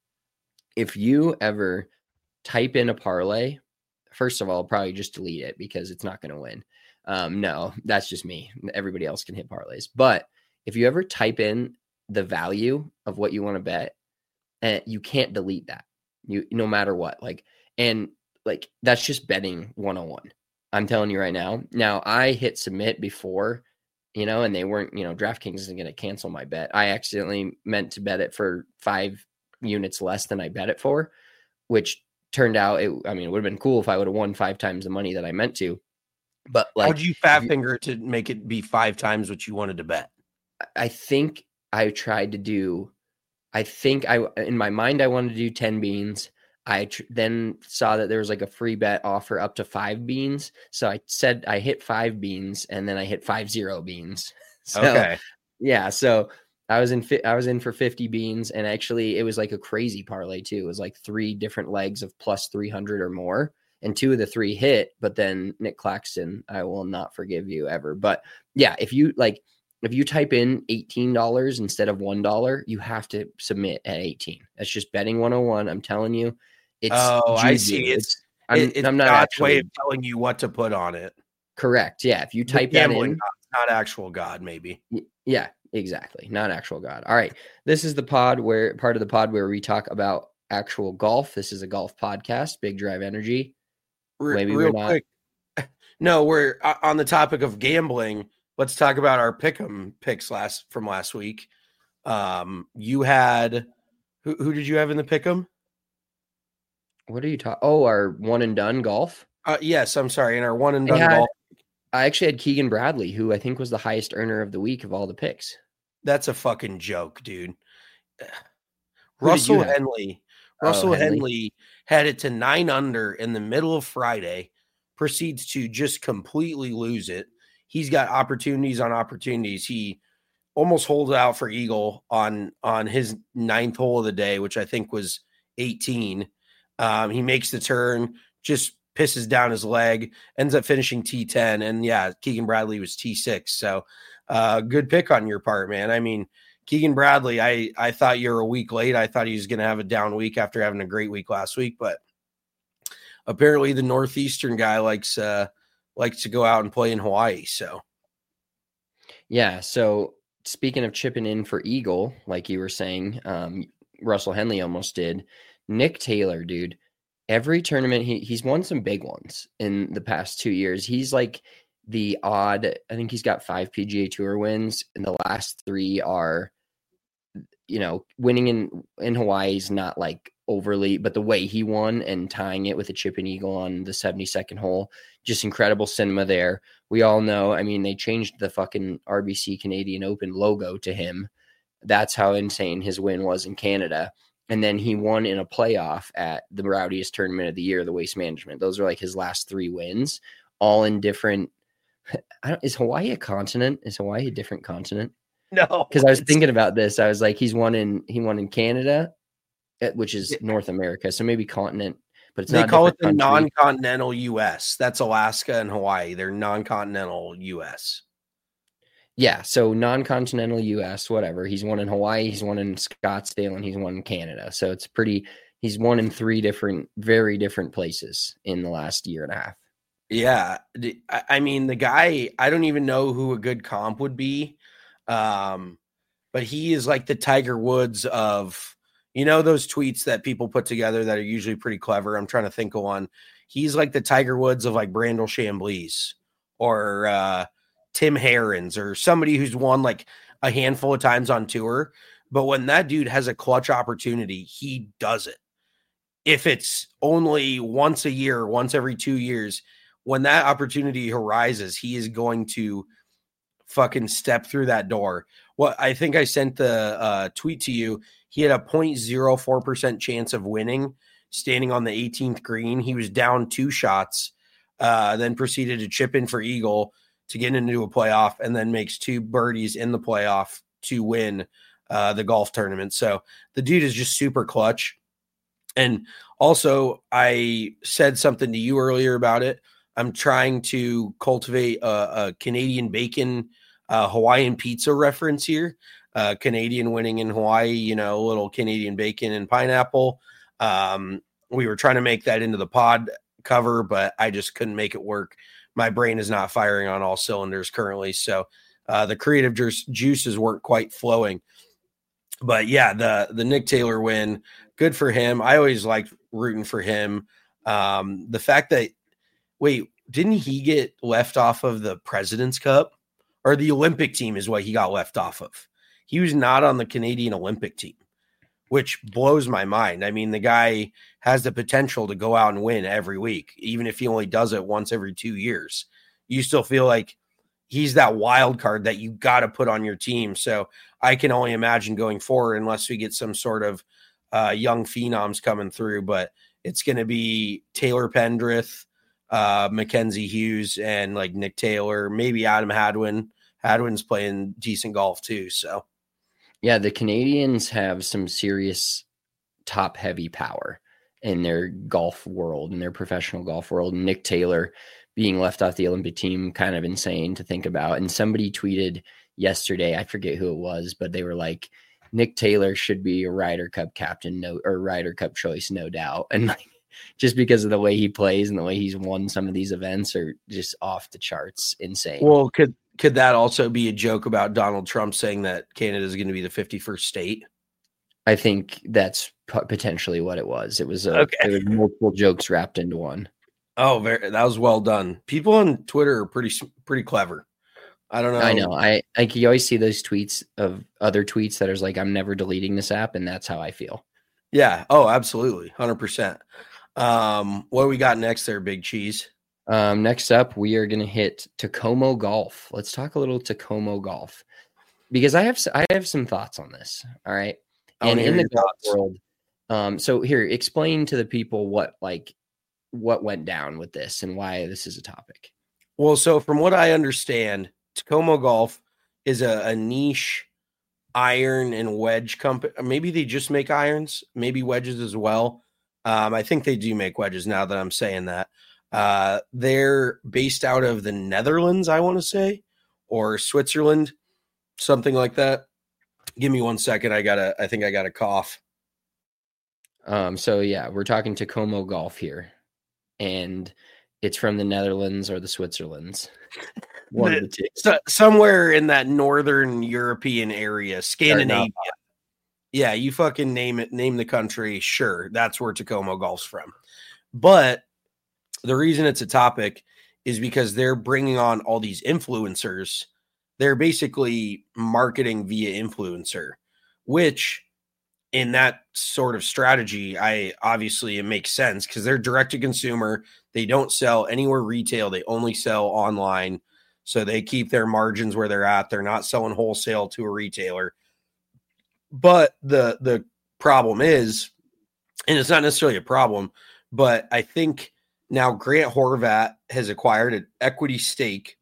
Speaker 4: If you ever type in a parlay, first of all, probably just delete it because it's not going to win. Um, no, that's just me. Everybody else can hit parlays. But if you ever type in the value of what you want to bet, and you can't delete that, you no matter what. Like, and like that's just betting one oh one. I'm telling you right now. Now I hit submit before, you know, and they weren't, you know, DraftKings isn't going to cancel my bet. I accidentally meant to bet it for five units less than I bet it for, which turned out, it, I mean, it would have been cool if I would have won five times the money that I meant to. But like,
Speaker 5: how'd you fat finger to make it be five times what you wanted to bet?
Speaker 4: I think I tried to do, I think I, in my mind, I wanted to do ten beans. I tr- then saw that there was like a free bet offer up to five beans. So I said I hit five beans and then I hit five zero beans. So,
Speaker 5: okay.
Speaker 4: Yeah. So I was in, fi- I was in for fifty beans, and actually it was like a crazy parlay too. It was like three different legs of plus three hundred or more. And two of the three hit, but then Nick Claxton, I will not forgive you ever. But yeah, if you like, if you type in eighteen dollars instead of one dollar, you have to submit at eighteen. That's just betting one oh one. I'm telling you. It's
Speaker 5: oh,
Speaker 4: juju.
Speaker 5: I see. It's,
Speaker 4: it's I'm,
Speaker 5: it, it's
Speaker 4: I'm not
Speaker 5: God's
Speaker 4: actually
Speaker 5: way of telling you what to put on it.
Speaker 4: correct. Yeah. If you
Speaker 5: The
Speaker 4: type that
Speaker 5: gambling
Speaker 4: in,
Speaker 5: God, not actual God, maybe.
Speaker 4: yeah, exactly. Not actual God. All right. This is the pod where part of the pod where we talk about actual golf. This is a golf podcast, Big Drive Energy.
Speaker 5: Re-
Speaker 4: Maybe
Speaker 5: real
Speaker 4: we're not.
Speaker 5: quick. No, we're uh, on the topic of gambling. Let's talk about our pick'em picks last from last week. Um, you had who, who did you have in the pick'em?
Speaker 4: What are you talking? Oh, our one and done golf.
Speaker 5: Uh, yes, I'm sorry. In our one and
Speaker 4: I
Speaker 5: done
Speaker 4: had-
Speaker 5: golf,
Speaker 4: I actually had Keegan Bradley, who I think was the highest earner of the week of all the picks.
Speaker 5: that's a fucking joke, dude.
Speaker 4: Who did
Speaker 5: Russell
Speaker 4: you have?
Speaker 5: Henley.
Speaker 4: Oh,
Speaker 5: Russell
Speaker 4: Henley.
Speaker 5: Henley had it to nine under in the middle of Friday, proceeds to just completely lose it. He's got opportunities on opportunities. He almost holds out for eagle on on his ninth hole of the day, which I think was eighteen. Um, he makes the turn, just pisses down his leg, ends up finishing T ten. And yeah, Keegan Bradley was T six. So uh, good pick on your part, man. I mean, Keegan Bradley, I, I thought you were a week late. I thought he was going to have a down week after having a great week last week, but apparently the Northeastern guy likes uh, likes to go out and play in Hawaii. So
Speaker 4: Yeah. So speaking of chipping in for eagle, like you were saying, um, Russell Henley almost did. Nick Taylor, dude, every tournament he he's won some big ones in the past two years. He's like the odd. I think he's got five P G A Tour wins, and the last three are, you know, winning in in Hawaii is not like overly, but the way he won and tying it with a chip and eagle on the seventy-second hole, just incredible cinema there. We all know. I mean, they changed the fucking R B C Canadian Open logo to him. That's how insane his win was in Canada. And then he won in a playoff at the rowdiest tournament of the year, the Waste Management. Those are like his last three wins, all in different. I don't, is Hawaii a continent? Is Hawaii a different continent?
Speaker 5: no,
Speaker 4: Because I was thinking about this. I was like, he's won in he won in Canada, which is North America, so maybe continent, but it's
Speaker 5: they
Speaker 4: not.
Speaker 5: call it the
Speaker 4: country.
Speaker 5: non-continental U S. That's Alaska and Hawaii. They're non-continental U S.
Speaker 4: Yeah, so non-continental U S, whatever. He's won in Hawaii, he's won in Scottsdale, and he's won in Canada. So it's pretty. He's won in three different, very different places in the last year and a half.
Speaker 5: Yeah, I mean the guy. I don't even know who a good comp would be, um, but he is like the Tiger Woods of, you know, those tweets that people put together that are usually pretty clever. I'm trying to think of one. He's like the Tiger Woods of like Brandel Chamblees or uh, Tim Herrins or somebody who's won like a handful of times on tour. But when that dude has a clutch opportunity, he does it. If it's only once a year, once every two years, when that opportunity arises, he is going to fucking step through that door. Well, I think I sent the uh, tweet to you. He had a zero point zero four percent chance of winning standing on the eighteenth green. He was down two shots, uh, then proceeded to chip in for eagle to get into a playoff, and then makes two birdies in the playoff to win uh, the golf tournament. So the dude is just super clutch. And also, I said something to you earlier about it. I'm trying to cultivate a, a Canadian bacon, uh, Hawaiian pizza reference here. Uh, Canadian winning in Hawaii, you know, a little Canadian bacon and pineapple. Um, we were trying to make that into the pod cover, but I just couldn't make it work. My brain is not firing on all cylinders currently. So uh, the creative ju- juices weren't quite flowing. But yeah, the the Nick Taylor win, good for him. I always liked rooting for him. Um, the fact that, wait, didn't he get left off of the President's Cup? Or the Olympic team is what he got left off of. He was not on the Canadian Olympic team, which blows my mind. I mean, the guy has the potential to go out and win every week, even if he only does it once every two years. you still feel like he's that wild card that you got to put on your team. So I can only imagine going forward, unless we get some sort of uh, young phenoms coming through, but it's going to be Taylor Pendrith, uh, Mackenzie Hughes, and like Nick Taylor, maybe Adam Hadwin. Hadwin's playing decent golf too. So
Speaker 4: yeah, the Canadians have some serious top heavy power in their golf world, in their professional golf world. Nick Taylor being left off the Olympic team, kind of insane to think about. And somebody tweeted yesterday, I forget who it was, but they were like, Nick Taylor should be a Ryder Cup captain, no, or Ryder Cup choice, no doubt. And like, just because of the way he plays and the way he's won some of these events are just off the charts, insane.
Speaker 5: Well, could could that also be a joke about Donald Trump saying that Canada is going to be the fifty-first state?
Speaker 4: I think that's p- potentially what it was. It was, a,
Speaker 5: Okay.
Speaker 4: it was multiple jokes wrapped into one.
Speaker 5: Oh, very, that was well done. People on Twitter are pretty pretty clever. I don't know.
Speaker 4: I know. I like you always see those tweets of other tweets that are like, I'm never deleting this app, and that's how I feel.
Speaker 5: Yeah. Oh, absolutely. one hundred percent. Um, what do we got next there, Big Cheese?
Speaker 4: Um, next up, we are going to hit Tacoma Golf. Let's talk a little Tacoma Golf because I have s- I have some thoughts on this. All right.
Speaker 5: I
Speaker 4: And
Speaker 5: wanna
Speaker 4: in
Speaker 5: hear
Speaker 4: the
Speaker 5: your
Speaker 4: golf
Speaker 5: thoughts.
Speaker 4: world, um, so here, explain to the people what like what went down with this and why this is a topic.
Speaker 5: Well, so from what I understand, Tacoma Golf is a, a niche iron and wedge company. Maybe they just make irons, maybe wedges as well. Um, I think they do make wedges now that I'm saying that. Uh, they're based out of the Netherlands, I want to say, or Switzerland, something like that. Give me one second. I gotta, I think I got a cough.
Speaker 4: Um, so yeah, we're talking Tacoma Golf here, and it's from the Netherlands or the Switzerlands. One of the two.
Speaker 5: So, somewhere in that northern European area, Scandinavia. Yeah, you fucking name it, name the country. Sure, that's where Tacoma Golf's from. But the reason it's a topic is because they're bringing on all these influencers. They're basically marketing via influencer, which in that sort of strategy, I obviously it makes sense because they're direct to consumer. They don't sell anywhere retail. They only sell online. So they keep their margins where they're at. They're not selling wholesale to a retailer. But the the problem is, and it's not necessarily a problem, but I think now Grant Horvat has acquired an equity stake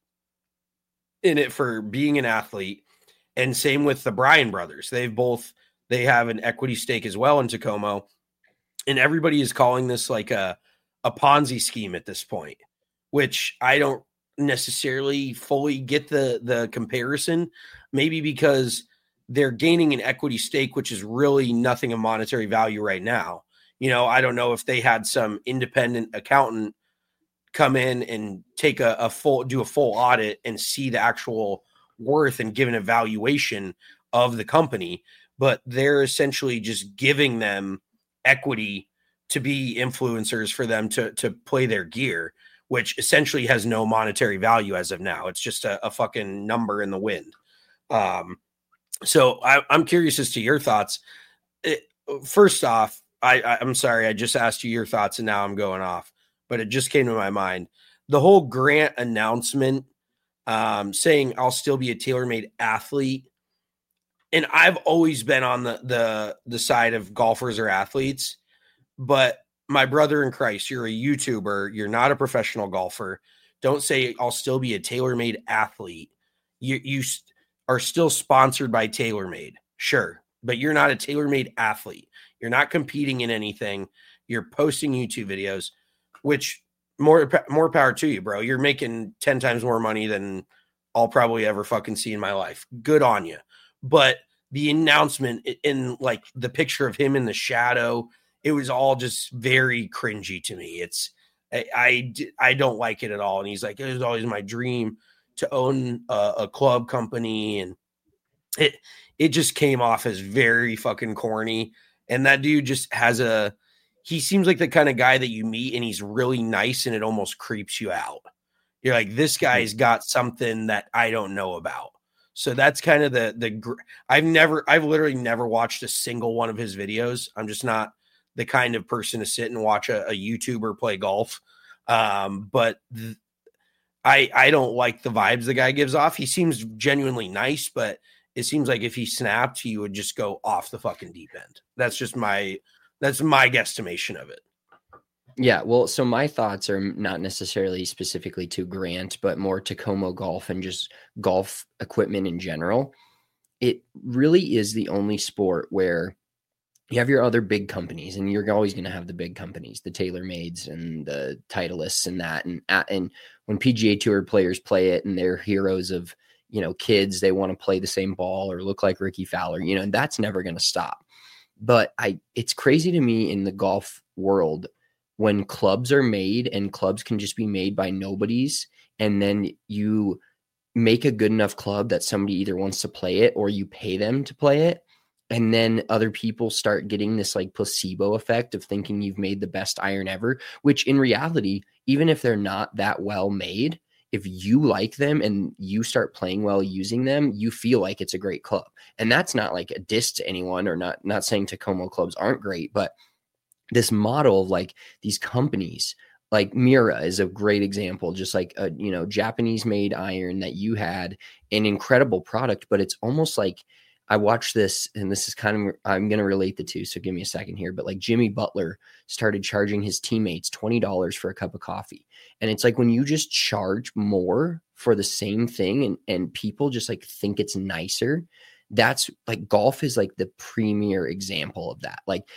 Speaker 5: in it for being an athlete. And same with the Bryan brothers. They've both, they have an equity stake as well in Tacoma. And everybody is calling this like a, a Ponzi scheme at this point, which I don't necessarily fully get the, the comparison, maybe because they're gaining an equity stake, which is really nothing of monetary value right now. You know, I don't know if they had some independent accountant come in and take a, a full, do a full audit and see the actual worth and give an evaluation of the company, but they're essentially just giving them equity to be influencers for them to, to play their gear, which essentially has no monetary value as of now. It's just a, a fucking number in the wind. Um, so I, I'm curious as to your thoughts. It, first off, I, I, I'm sorry, I just asked you your thoughts and now I'm going off, but it just came to my mind. The whole Grant announcement um, saying I'll still be a tailor-made athlete. And I've always been on the, the, the side of golfers or athletes, but my brother in Christ, you're a YouTuber. You're not a professional golfer. Don't say I'll still be a tailor-made athlete. You, you are still sponsored by TaylorMade. Sure. But you're not a tailor-made athlete. You're not competing in anything. You're posting YouTube videos, which more, more power to you, bro. You're making ten times more money than I'll probably ever fucking see in my life. Good on you. But the announcement in like the picture of him in the shadow, it was all just very cringy to me. It's, I, I, I don't like it at all. And he's like, it was always my dream to own a, a club company. And it, it just came off as very fucking corny. And that dude just has a, he seems like the kind of guy that you meet and he's really nice and it almost creeps you out. You're like, this guy's got something that I don't know about. So that's kind of the, the, I've never, I've literally never watched a single one of his videos. I'm just not the kind of person to sit and watch a, a YouTuber play golf. Um, but th- I, I don't like the vibes the guy gives off. He seems genuinely nice, but it seems like if he snapped, he would just go off the fucking deep end. That's just my, that's my guesstimation of it.
Speaker 4: Yeah, well, so my thoughts are not necessarily specifically to Grant, but more to Como Golf and just golf equipment in general. It really is the only sport where you have your other big companies, and you're always going to have the big companies, the TaylorMades and the Titleists and that. And, and when P G A Tour players play it and they're heroes of, you know, kids, they want to play the same ball or look like Ricky Fowler, you know, and that's never going to stop. But I, it's crazy to me in the golf world when clubs are made, and clubs can just be made by nobodies. And then you make a good enough club that somebody either wants to play it or you pay them to play it. And then other people start getting this like placebo effect of thinking you've made the best iron ever, which in reality, even if they're not that well made, if you like them and you start playing well using them, you feel like it's a great club. And that's not like a diss to anyone, or not, not saying Takomo clubs aren't great, but this model of like these companies, like Mira is a great example, just like a, you know, Japanese made iron that you had, an incredible product, but it's almost like, I watched this, and this is kind of, I'm going to relate the two, so give me a second here. But like Jimmy Butler started charging his teammates twenty dollars for a cup of coffee. And it's like when you just charge more for the same thing, and, and people just like think it's nicer, that's like golf is like the premier example of that. Like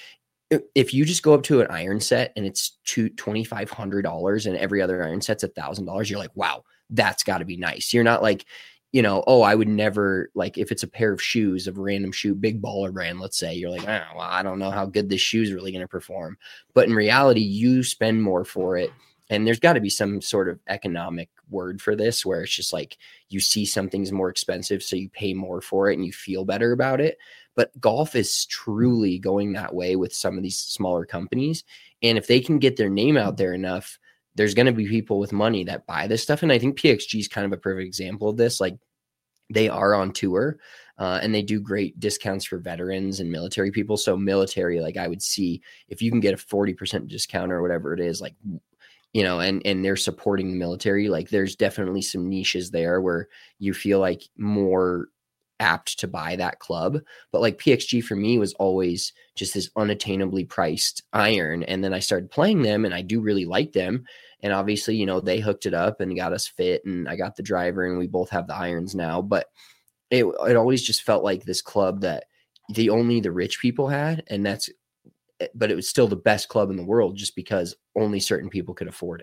Speaker 4: if you just go up to an iron set and it's two twenty-five hundred dollars and every other iron set's a thousand dollars, you're like, wow, that's got to be nice. You're not like, you know, oh, I would never, like if it's a pair of shoes of a random shoe, big baller brand, let's say, you're like, oh, well, I don't know how good this shoe is really going to perform. But in reality, you spend more for it. And there's got to be some sort of economic word for this, where it's just like you see something's more expensive, so you pay more for it and you feel better about it. But golf is truly going that way with some of these smaller companies. And if they can get their name out there enough, there's going to be people with money that buy this stuff. And I think P X G is kind of a perfect example of this. Like they are on tour uh, and they do great discounts for veterans and military people. So military, like I would see if you can get a forty percent discount or whatever it is, like, you know, and, and they're supporting the military. Like there's definitely some niches there where you feel like more apt to buy that club. But like P X G for me was always just this unattainably priced iron. And then I started playing them and I do really like them. And obviously, you know, they hooked it up and got us fit, and I got the driver and we both have the irons now. But it, it always just felt like this club that the only the rich people had. And that's, but it was still the best club in the world just because only certain people could afford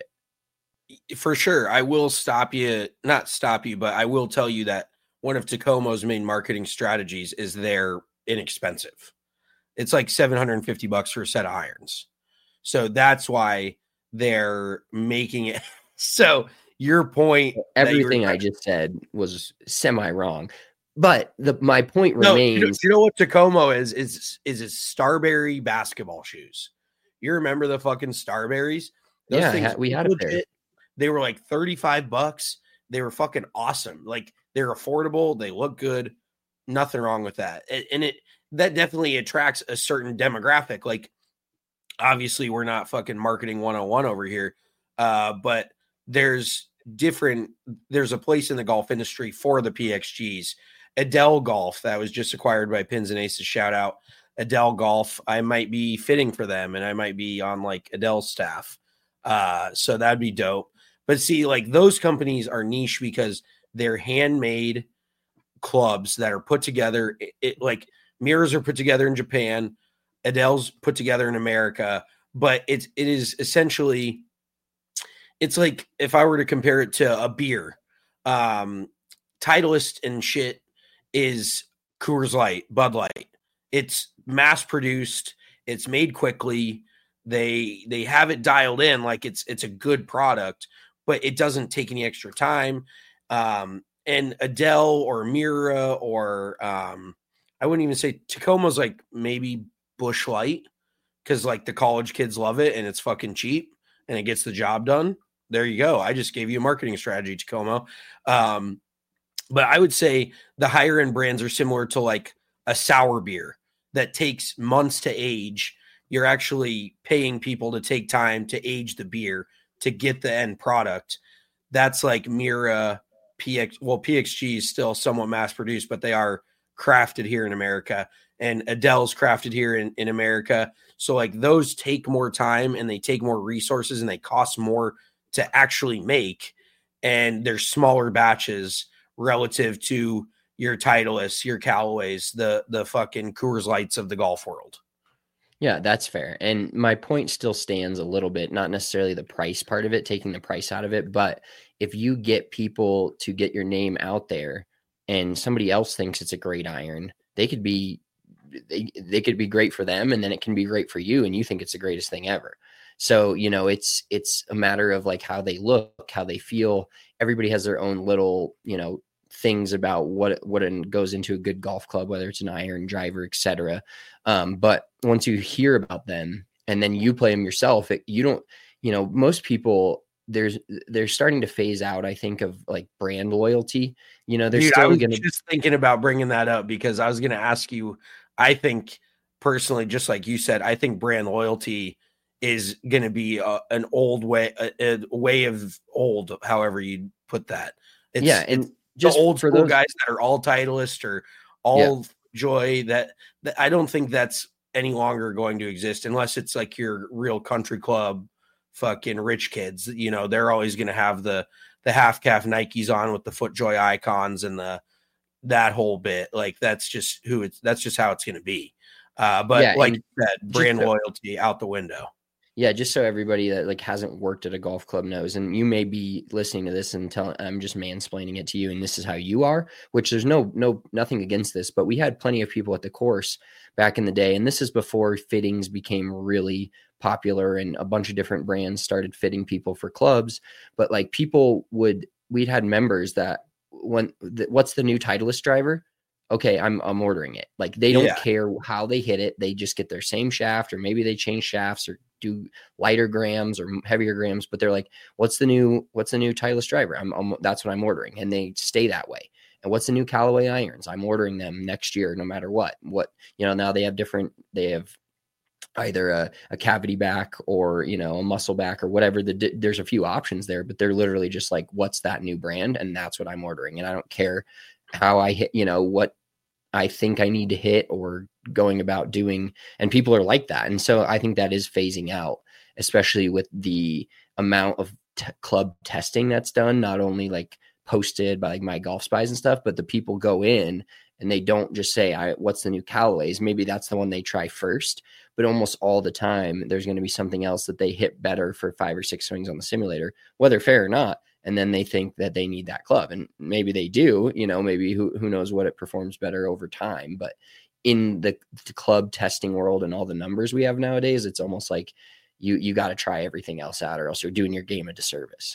Speaker 4: it.
Speaker 5: For sure. I will stop you, not stop you, but I will tell you that one of Takomo's main marketing strategies is they're inexpensive. It's like seven hundred fifty bucks for a set of irons. So that's why they're making it. So your point,
Speaker 4: everything I just said was semi wrong, but the, my point
Speaker 5: no,
Speaker 4: remains.
Speaker 5: You know, you know what Takomo is, is, is his Starberry basketball shoes. You remember the fucking Starberries? Those
Speaker 4: yeah,
Speaker 5: things,
Speaker 4: we had a pair.
Speaker 5: They were like thirty-five bucks. They were fucking awesome. Like they're affordable. They look good. Nothing wrong with that. And it, that definitely attracts a certain demographic. Like obviously we're not fucking marketing one oh one over here. Uh, but there's different, there's a place in the golf industry for the P X Gs. Adele Golf that was just acquired by Pins and Aces. Shout out Adele Golf. I might be fitting for them and I might be on like Adele's staff. Uh, so that'd be dope. But see, like those companies are niche because they're handmade clubs that are put together. It, it, like mirrors are put together in Japan, Adele's put together in America, but it's it is essentially, it's like if I were to compare it to a beer, um, Titleist and shit is Coors Light, Bud Light. It's mass produced. It's made quickly. They they have it dialed in like it's it's a good product, but it doesn't take any extra time. Um, and Adele or Mira or um, I wouldn't even say Takoma's like maybe Busch Light because like the college kids love it and it's fucking cheap and it gets the job done. There you go. I just gave you a marketing strategy, Takoma. Um, but I would say the higher end brands are similar to like a sour beer that takes months to age. You're actually paying people to take time to age the beer to get the end product. that's like Mira, P X. Well, P X G is still somewhat mass produced, but they are crafted here in America, and Adele's crafted here in, in America. So like those take more time and they take more resources and they cost more to actually make. And they're smaller batches relative to your Titleists, your Callaways, the, the fucking Coors Lights of the golf world.
Speaker 4: Yeah, that's fair. And my point still stands a little bit, not necessarily the price part of it, taking the price out of it, but if you get people to get your name out there and somebody else thinks it's a great iron, they could be, they, they could be great for them. And then it can be great for you. And you think it's the greatest thing ever. So, you know, it's, it's a matter of like how they look, how they feel. Everybody has their own little, you know, things about what, what goes into a good golf club, whether it's an iron, driver, et cetera. Um, but once you hear about them and then you play them yourself, it, you don't, you know, most people, there's, they're starting to phase out, I think, of like brand loyalty. You know, they're
Speaker 5: Dude,
Speaker 4: still
Speaker 5: I was
Speaker 4: going to
Speaker 5: just thinking about bringing that up because I was going to ask you, I think personally, just like you said, I think brand loyalty is going to be a, an old way, a, a way of old, however you put that. It's,
Speaker 4: yeah. And
Speaker 5: it's
Speaker 4: just
Speaker 5: the old
Speaker 4: for
Speaker 5: school
Speaker 4: those
Speaker 5: guys that are all Titleist or all
Speaker 4: yeah.
Speaker 5: Joy, that, that I don't think that's any longer going to exist unless it's like your real country club fucking rich kids. You know, they're always going to have the the half calf Nikes on with the FootJoy icons and the that whole bit. Like that's just who it's that's just how it's going to be. Uh, but
Speaker 4: yeah,
Speaker 5: like that brand
Speaker 4: just,
Speaker 5: loyalty out the window.
Speaker 4: Yeah, just so everybody that like hasn't worked at a golf club knows, and you may be listening to this and telling I'm just mansplaining it to you, and this is how you are. Which there's no no nothing against this, but we had plenty of people at the course back in the day, and this is before fittings became really popular, and a bunch of different brands started fitting people for clubs. But like people would, we'd had members that when the, what's the new Titleist driver? Okay, I'm I'm ordering it. Like they don't
Speaker 5: Yeah.
Speaker 4: care how they hit it. They just get their same shaft, or maybe they change shafts or do lighter grams or heavier grams, but they're like, what's the new, what's the new Titleist driver? I'm, I'm that's what I'm ordering. And they stay that way. And what's the new Callaway irons? I'm ordering them next year, no matter what, what, you know, now they have different, they have either a, a cavity back or, you know, a muscle back or whatever. The, there's a few options there, but they're literally just like, what's that new brand? And that's what I'm ordering. And I don't care how I hit, you know, what I think I need to hit or going about doing. And people are like that. And so I think that is phasing out, especially with the amount of t- club testing that's done, not only like posted by like My Golf Spies and stuff, but the people go in and they don't just say, I, what's the new Callaways? Maybe that's the one they try first, but almost all the time there's going to be something else that they hit better for five or six swings on the simulator, whether fair or not. And then they think that they need that club, and maybe they do, you know, maybe who, who knows what it performs better over time. But in the, the club testing world and all the numbers we have nowadays, it's almost like you, you got to try everything else out or else you're doing your game a disservice.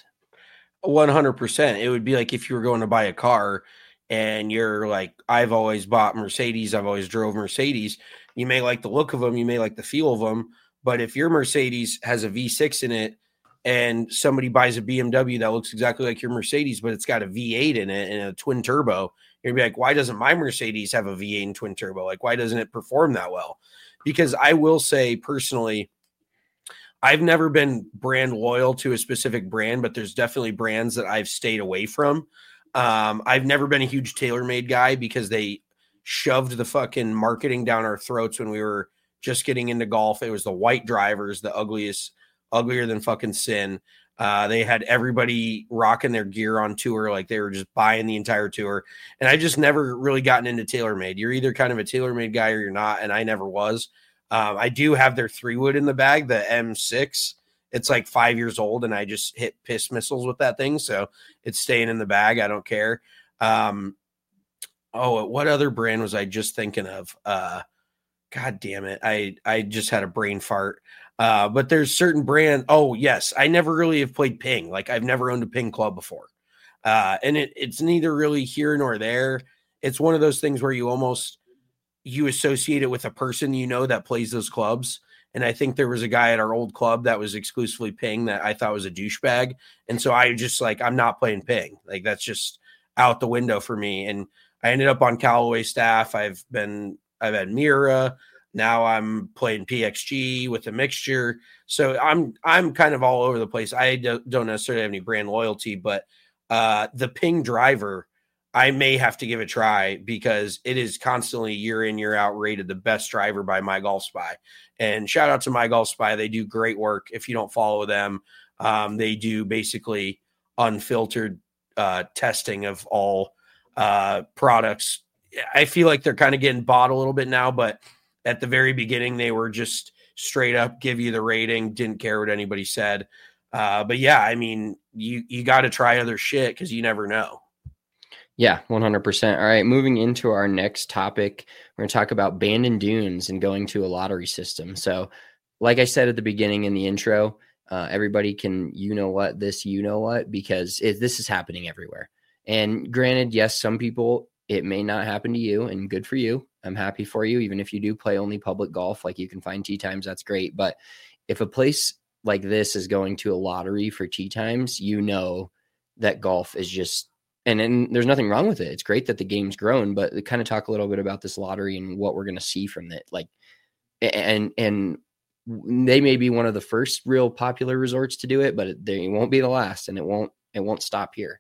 Speaker 5: one hundred percent. It would be like if you were going to buy a car and you're like, I've always bought Mercedes. I've always drove Mercedes. You may like the look of them. You may like the feel of them. But if your Mercedes has a V six in it, and somebody buys a B M W that looks exactly like your Mercedes, but it's got a V eight in it and a twin turbo, you'd be like, why doesn't my Mercedes have a V eight and twin turbo? Like, why doesn't it perform that well? Because I will say personally, I've never been brand loyal to a specific brand, but there's definitely brands that I've stayed away from. Um, I've never been a huge TaylorMade guy because they shoved the fucking marketing down our throats when we were just getting into golf. It was the white drivers, the ugliest, uglier than fucking sin. Uh, they had everybody rocking their gear on tour. Like they were just buying the entire tour. And I just never really gotten into TaylorMade. You're either kind of a TaylorMade guy or you're not. And I never was. Um, I do have their three wood in the bag, the M six. It's like five years old and I just hit piss missiles with that thing. So it's staying in the bag. I don't care. Um, oh, what other brand was I just thinking of? Uh, God damn it. I, I just had a brain fart. Uh, but there's certain brand. Oh yes. I never really have played Ping. Like I've never owned a Ping club before. Uh, and it, it's neither really here nor there. It's one of those things where you almost, you associate it with a person, you know, that plays those clubs. And I think there was a guy at our old club that was exclusively Ping that I thought was a douchebag. And so I just like, I'm not playing Ping. Like that's just out the window for me. And I ended up on Callaway staff. I've been, I've had Mira. Now I'm playing P X G with a mixture. So I'm I'm kind of all over the place. I do, don't necessarily have any brand loyalty, but uh, the Ping driver, I may have to give a try because it is constantly year in, year out rated the best driver by My Golf Spy. And shout out to My Golf Spy. They do great work. If you don't follow them, um, they do basically unfiltered uh, testing of all uh, products. I feel like they're kind of getting bought a little bit now, but at the very beginning, they were just straight up give you the rating, didn't care what anybody said. Uh, but yeah, I mean, you, you got to try other shit because you never know.
Speaker 4: Yeah, one hundred percent. All right, moving into our next topic, we're going to talk about Bandon Dunes and going to a lottery system. So like I said at the beginning in the intro, uh, everybody can, you know what, this, you know what, because it, this is happening everywhere. And granted, yes, some people, it may not happen to you, and good for you. I'm happy for you. Even if you do play only public golf, like you can find tee times, that's great. But if a place like this is going to a lottery for tee times, you know that golf is just, and, and there's nothing wrong with it. It's great that the game's grown, but kind of talk a little bit about this lottery and what we're going to see from it. Like, and, and they may be one of the first real popular resorts to do it, but it, they won't be the last, and it won't, it won't stop here.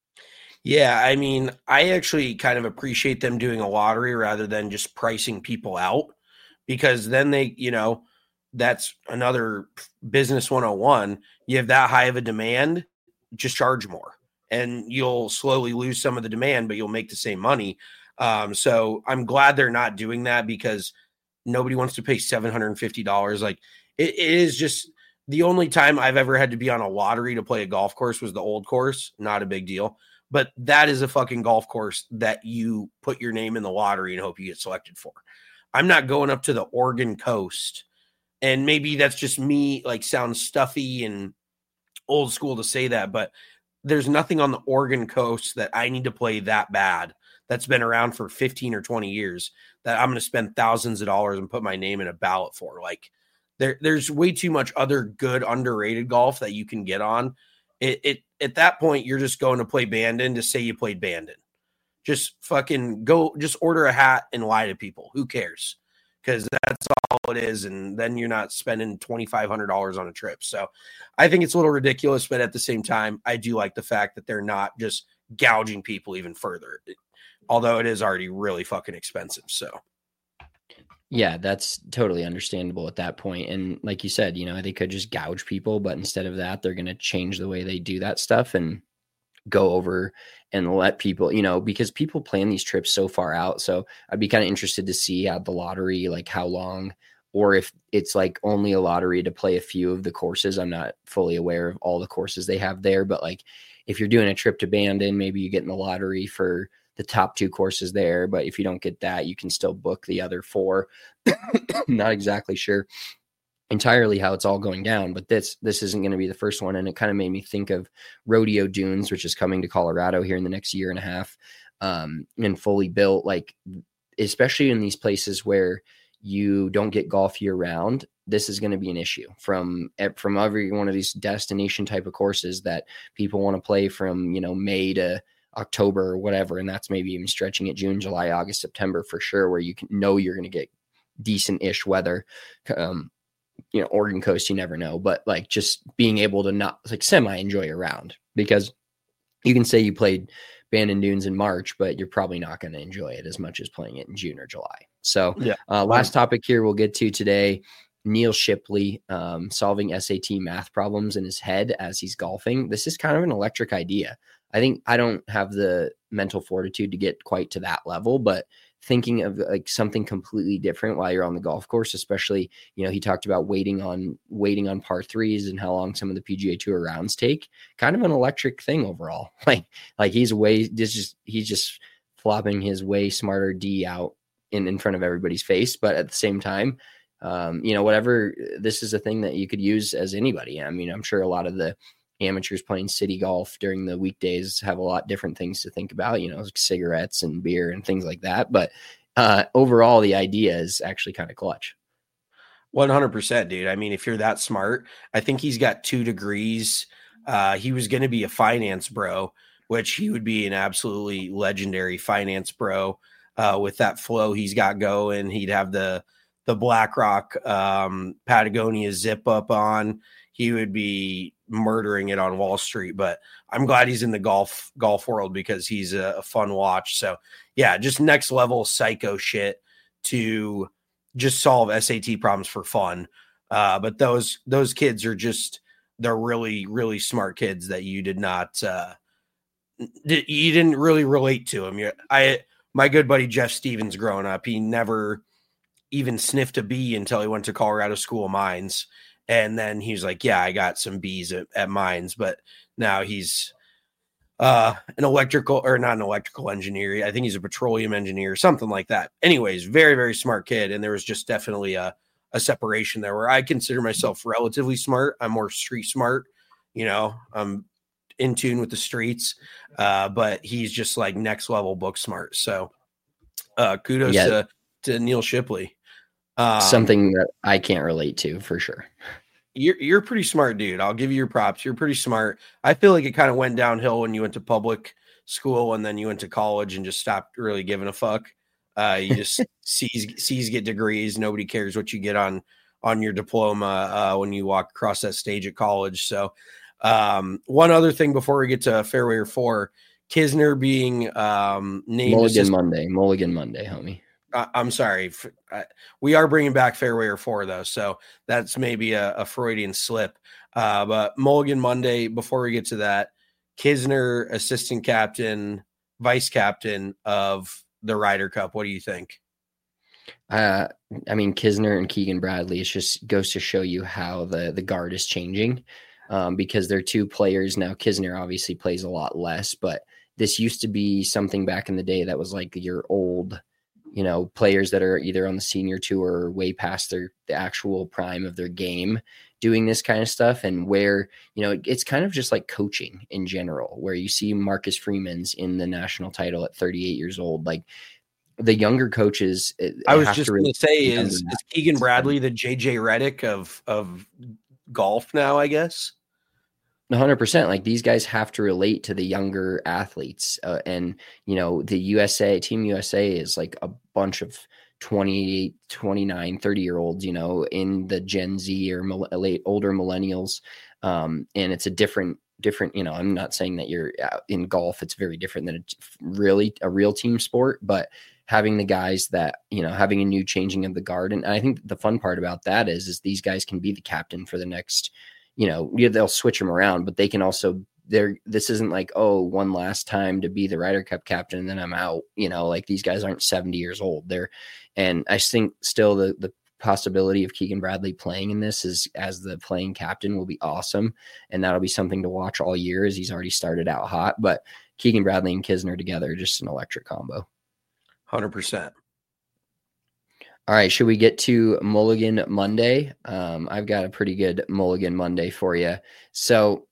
Speaker 5: Yeah, I mean, I actually kind of appreciate them doing a lottery rather than just pricing people out, because then they, you know, that's another business one oh one. You have that high of a demand, just charge more, and you'll slowly lose some of the demand, but you'll make the same money. Um, so I'm glad they're not doing that, because nobody wants to pay seven hundred fifty dollars. Like it, it is just the only time I've ever had to be on a lottery to play a golf course was the old course. Not a big deal. But that is a fucking golf course that you put your name in the lottery and hope you get selected for. I'm not going up to the Oregon coast. And maybe that's just me, like, sounds stuffy and old school to say that, but there's nothing on the Oregon coast that I need to play that bad that's been around for fifteen or twenty years that I'm going to spend thousands of dollars and put my name in a ballot for. Like, there, there's way too much other good underrated golf that you can get on. It, it at that point, you're just going to play Bandon to say you played Bandon. Just fucking go, just order a hat and lie to people. Who cares? Because that's all it is. And then you're not spending twenty-five hundred dollars on a trip. So I think it's a little ridiculous, but at the same time, I do like the fact that they're not just gouging people even further, although it is already really fucking expensive. So.
Speaker 4: Yeah, that's totally understandable at that point. And like you said, you know, they could just gouge people, but instead of that, they're going to change the way they do that stuff and go over and let people, you know, because people plan these trips so far out. So I'd be kind of interested to see how the lottery, like how long, or if it's like only a lottery to play a few of the courses. I'm not fully aware of all the courses they have there, but like if you're doing a trip to Bandon, maybe you get in the lottery for the top two courses there, but if you don't get that, you can still book the other four. Not exactly sure entirely how it's all going down, but this this isn't going to be the first one. And it kind of made me think of Rodeo Dunes, which is coming to Colorado here in the next year and a half, um, and fully built, like, especially in these places where you don't get golf year round. This is going to be an issue from from every one of these destination type of courses that people want to play from, you know, May to October or whatever. And that's maybe even stretching it June, July, August, September for sure, where you can know you're going to get decent ish weather. Um, you know, Oregon coast, you never know, but like just being able to not like semi enjoy a round, because you can say you played Bandon Dunes in March, but you're probably not going to enjoy it as much as playing it in June or July. So yeah. uh, last topic here we'll get to today, Neil Shipley um, solving S A T math problems in his head as he's golfing. This is kind of an electric idea. I think I don't have the mental fortitude to get quite to that level, but thinking of like something completely different while you're on the golf course, especially, you know, he talked about waiting on waiting on par threes and how long some of the P G A Tour rounds take. Kind of an electric thing overall. Like, like he's way this just he's just flopping his way smarter D out in, in front of everybody's face. But at the same time, um, you know, whatever, this is a thing that you could use as anybody. I mean, I'm sure a lot of the amateurs playing city golf during the weekdays have a lot different things to think about, you know, like cigarettes and beer and things like that. But uh, overall, the idea is actually kind of clutch.
Speaker 5: one hundred percent, dude. I mean, if you're that smart, I think he's got two degrees. Uh, he was going to be a finance bro, which he would be an absolutely legendary finance bro uh, with that flow he's got going. He'd have the the BlackRock um, Patagonia zip up on, he would be murdering it on Wall Street. But I'm glad he's in the golf golf world because he's a, a fun watch. So yeah, just next level psycho shit to just solve S A T problems for fun. Uh, but those those kids are just they're really really smart kids that you did not uh, you didn't really relate to them. I my good buddy Jeff Stevens growing up, he never even sniffed a bee until he went to Colorado School of Mines. And then he's like, yeah, I got some bees at, at Mines, but now he's uh, an electrical or not an electrical engineer. I think he's a petroleum engineer, something like that. Anyways, very, very smart kid. And there was just definitely a, a separation there where I consider myself relatively smart. I'm more street smart, you know, I'm in tune with the streets, uh, but he's just like next level book smart. So uh, kudos yeah. to, to Neil Shipley. Um,
Speaker 4: Something that I can't relate to for sure.
Speaker 5: You're you're pretty smart, dude. I'll give you your props. You're pretty smart. I feel like it kind of went downhill when you went to public school and then you went to college and just stopped really giving a fuck. Uh, you just C's C's get degrees. Nobody cares what you get on on your diploma uh, when you walk across that stage at college. So, um, one other thing before we get to Fairway or Four, Kisner being um, named
Speaker 4: Mulligan
Speaker 5: assistant-
Speaker 4: Monday, Mulligan Monday, homie.
Speaker 5: I'm sorry. We are bringing back Fairway or Four, though, so that's maybe a, a Freudian slip. Uh, but Mulligan Monday, before we get to that, Kisner, assistant captain, vice captain of the Ryder Cup. What do you think?
Speaker 4: Uh, I mean, Kisner and Keegan Bradley, it just goes to show you how the, the guard is changing um, because they're two players. Now, Kisner obviously plays a lot less, but this used to be something back in the day that was like your old – you know, players that are either on the senior tour or way past their the actual prime of their game doing this kind of stuff. And where, you know, it's kind of just like coaching in general, where you see Marcus Freeman's in the national title at thirty-eight years old. Like the younger coaches.
Speaker 5: I was just going to say, is, is Keegan Bradley the J J Redick of, of golf now, I guess?
Speaker 4: one hundred percent. Like these guys have to relate to the younger athletes. Uh, and, you know, the U S A, Team U S A is like a bunch of twenty-eight, twenty-nine, thirty year olds, you know, in the Gen Z or mil- late older millennials. Um, and it's a different, different, you know, I'm not saying that you're in golf. It's very different than a, really a real team sport, but having the guys that, you know, having a new changing of the guard. And I think the fun part about that is, is these guys can be the captain for the next, you know, they'll switch them around, but they can also, they're, this isn't like, oh, one last time to be the Ryder Cup captain and then I'm out, you know, like these guys aren't seventy years old. They're, and I think still the, the possibility of Keegan Bradley playing in this is as the playing captain will be awesome. And that'll be something to watch all year as he's already started out hot, but Keegan Bradley and Kisner together, just an electric combo.
Speaker 5: one hundred percent.
Speaker 4: All right, should we get to Mulligan Monday? Um, I've got a pretty good Mulligan Monday for you. So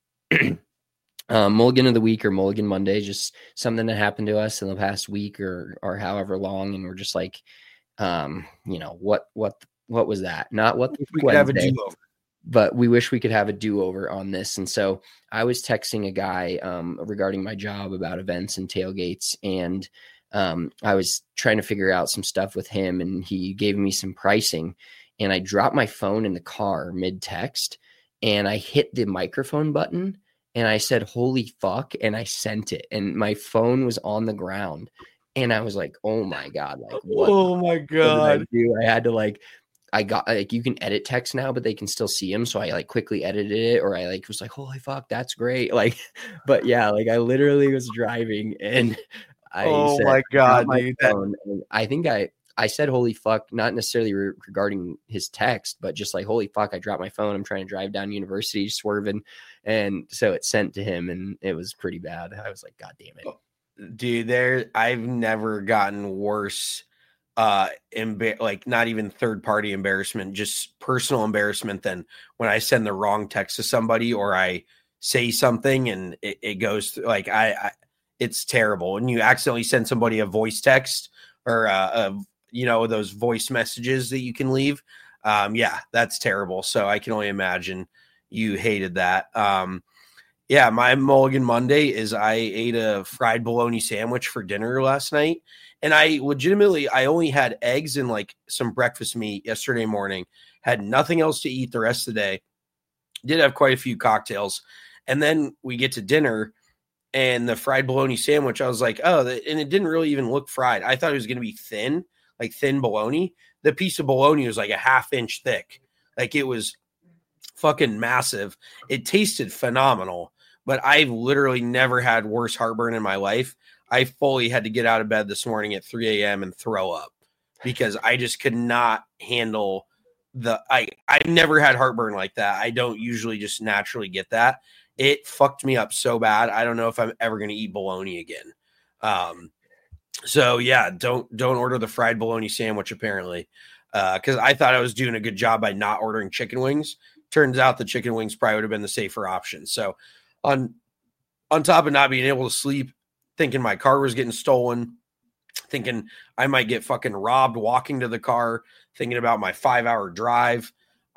Speaker 4: um, Mulligan of the week or Mulligan Monday, just something that happened to us in the past week or or however long, and we're just like, um, you know, what what what was that? Not what
Speaker 5: we could have a do-over,
Speaker 4: but we wish we could have a do-over on this. And so I was texting a guy um, regarding my job about events and tailgates, and Um, I was trying to figure out some stuff with him and he gave me some pricing and I dropped my phone in the car mid text and I hit the microphone button and I said, holy fuck. And I sent it and my phone was on the ground and I was like, oh my God, like, what?
Speaker 5: Oh my God.
Speaker 4: I, do? I had to like, I got like, you can edit text now, but they can still see them. So I like quickly edited it or I like was like, holy fuck, that's great. Like, but yeah, like I literally was driving and I
Speaker 5: oh
Speaker 4: said,
Speaker 5: my God,
Speaker 4: my
Speaker 5: dude.
Speaker 4: phone, and I think I, I said, holy fuck, not necessarily re- regarding his text, but just like, holy fuck, I dropped my phone. I'm trying to drive down University swerving. And so it sent to him and it was pretty bad. I was like, God damn it.
Speaker 5: Dude, there, I've never gotten worse. Uh, emba- like not even third party embarrassment, just personal embarrassment than when I send the wrong text to somebody or I say something and it, it goes through, like I, I it's terrible. When you accidentally send somebody a voice text or, uh, a, you know, those voice messages that you can leave. Um, yeah, that's terrible. So I can only imagine you hated that. Um, Yeah, my Mulligan Monday is I ate a fried bologna sandwich for dinner last night. And I legitimately, I only had eggs and like some breakfast meat yesterday morning, had nothing else to eat the rest of the day. Did have quite a few cocktails. And then we get to dinner and the fried bologna sandwich, I was like, oh, and it didn't really even look fried. I thought it was going to be thin, like thin bologna. The piece of bologna was like a half inch thick. Like it was fucking massive. It tasted phenomenal, but I've literally never had worse heartburn in my life. I fully had to get out of bed this morning at three a.m. and throw up because I just could not handle the I I've never had heartburn like that. I don't usually just naturally get that. It fucked me up so bad. I don't know if I'm ever going to eat bologna again. Um, so yeah, don't don't order the fried bologna sandwich apparently, because uh, I thought I was doing a good job by not ordering chicken wings. Turns out the chicken wings probably would have been the safer option. So on on top of not being able to sleep, thinking my car was getting stolen, thinking I might get fucking robbed walking to the car, thinking about my five hour drive,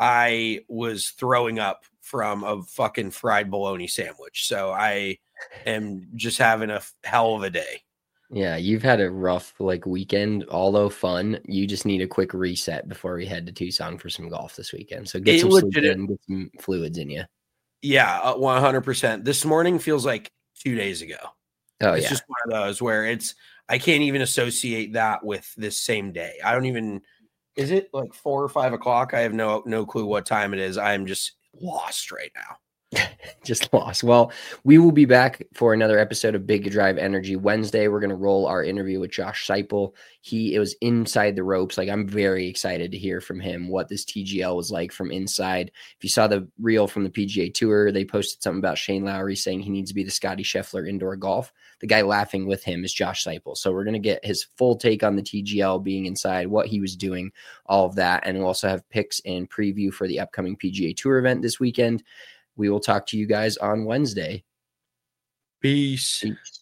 Speaker 5: I was throwing up from a fucking fried bologna sandwich. So I am just having a hell of a day.
Speaker 4: Yeah, you've had a rough like weekend, although fun. You just need a quick reset before we head to Tucson for some golf this weekend. So get
Speaker 5: It
Speaker 4: some
Speaker 5: legit-
Speaker 4: sleep in, get some fluids in you.
Speaker 5: Yeah, uh, one hundred percent. This morning feels like two days ago.
Speaker 4: Oh,
Speaker 5: it's
Speaker 4: yeah.
Speaker 5: just one of those where it's, I can't even associate that with this same day. I don't even, is it like four or five o'clock? I have no, no clue what time it is. I'm just lost right now.
Speaker 4: Just lost. Well, we will be back for another episode of Big Drive Energy Wednesday. We're going to roll our interview with Josh Seipel. He it was inside the ropes. Like, I'm very excited to hear from him what this T G L was like from inside. If you saw the reel from the P G A Tour, they posted something about Shane Lowry saying he needs to be the Scotty Scheffler indoor golf. The guy laughing with him is Josh Seipel. So we're going to get his full take on the T G L being inside, what he was doing, all of that. And we'll also have picks and preview for the upcoming P G A Tour event this weekend. We will talk to you guys on Wednesday.
Speaker 5: Peace.
Speaker 4: Peace.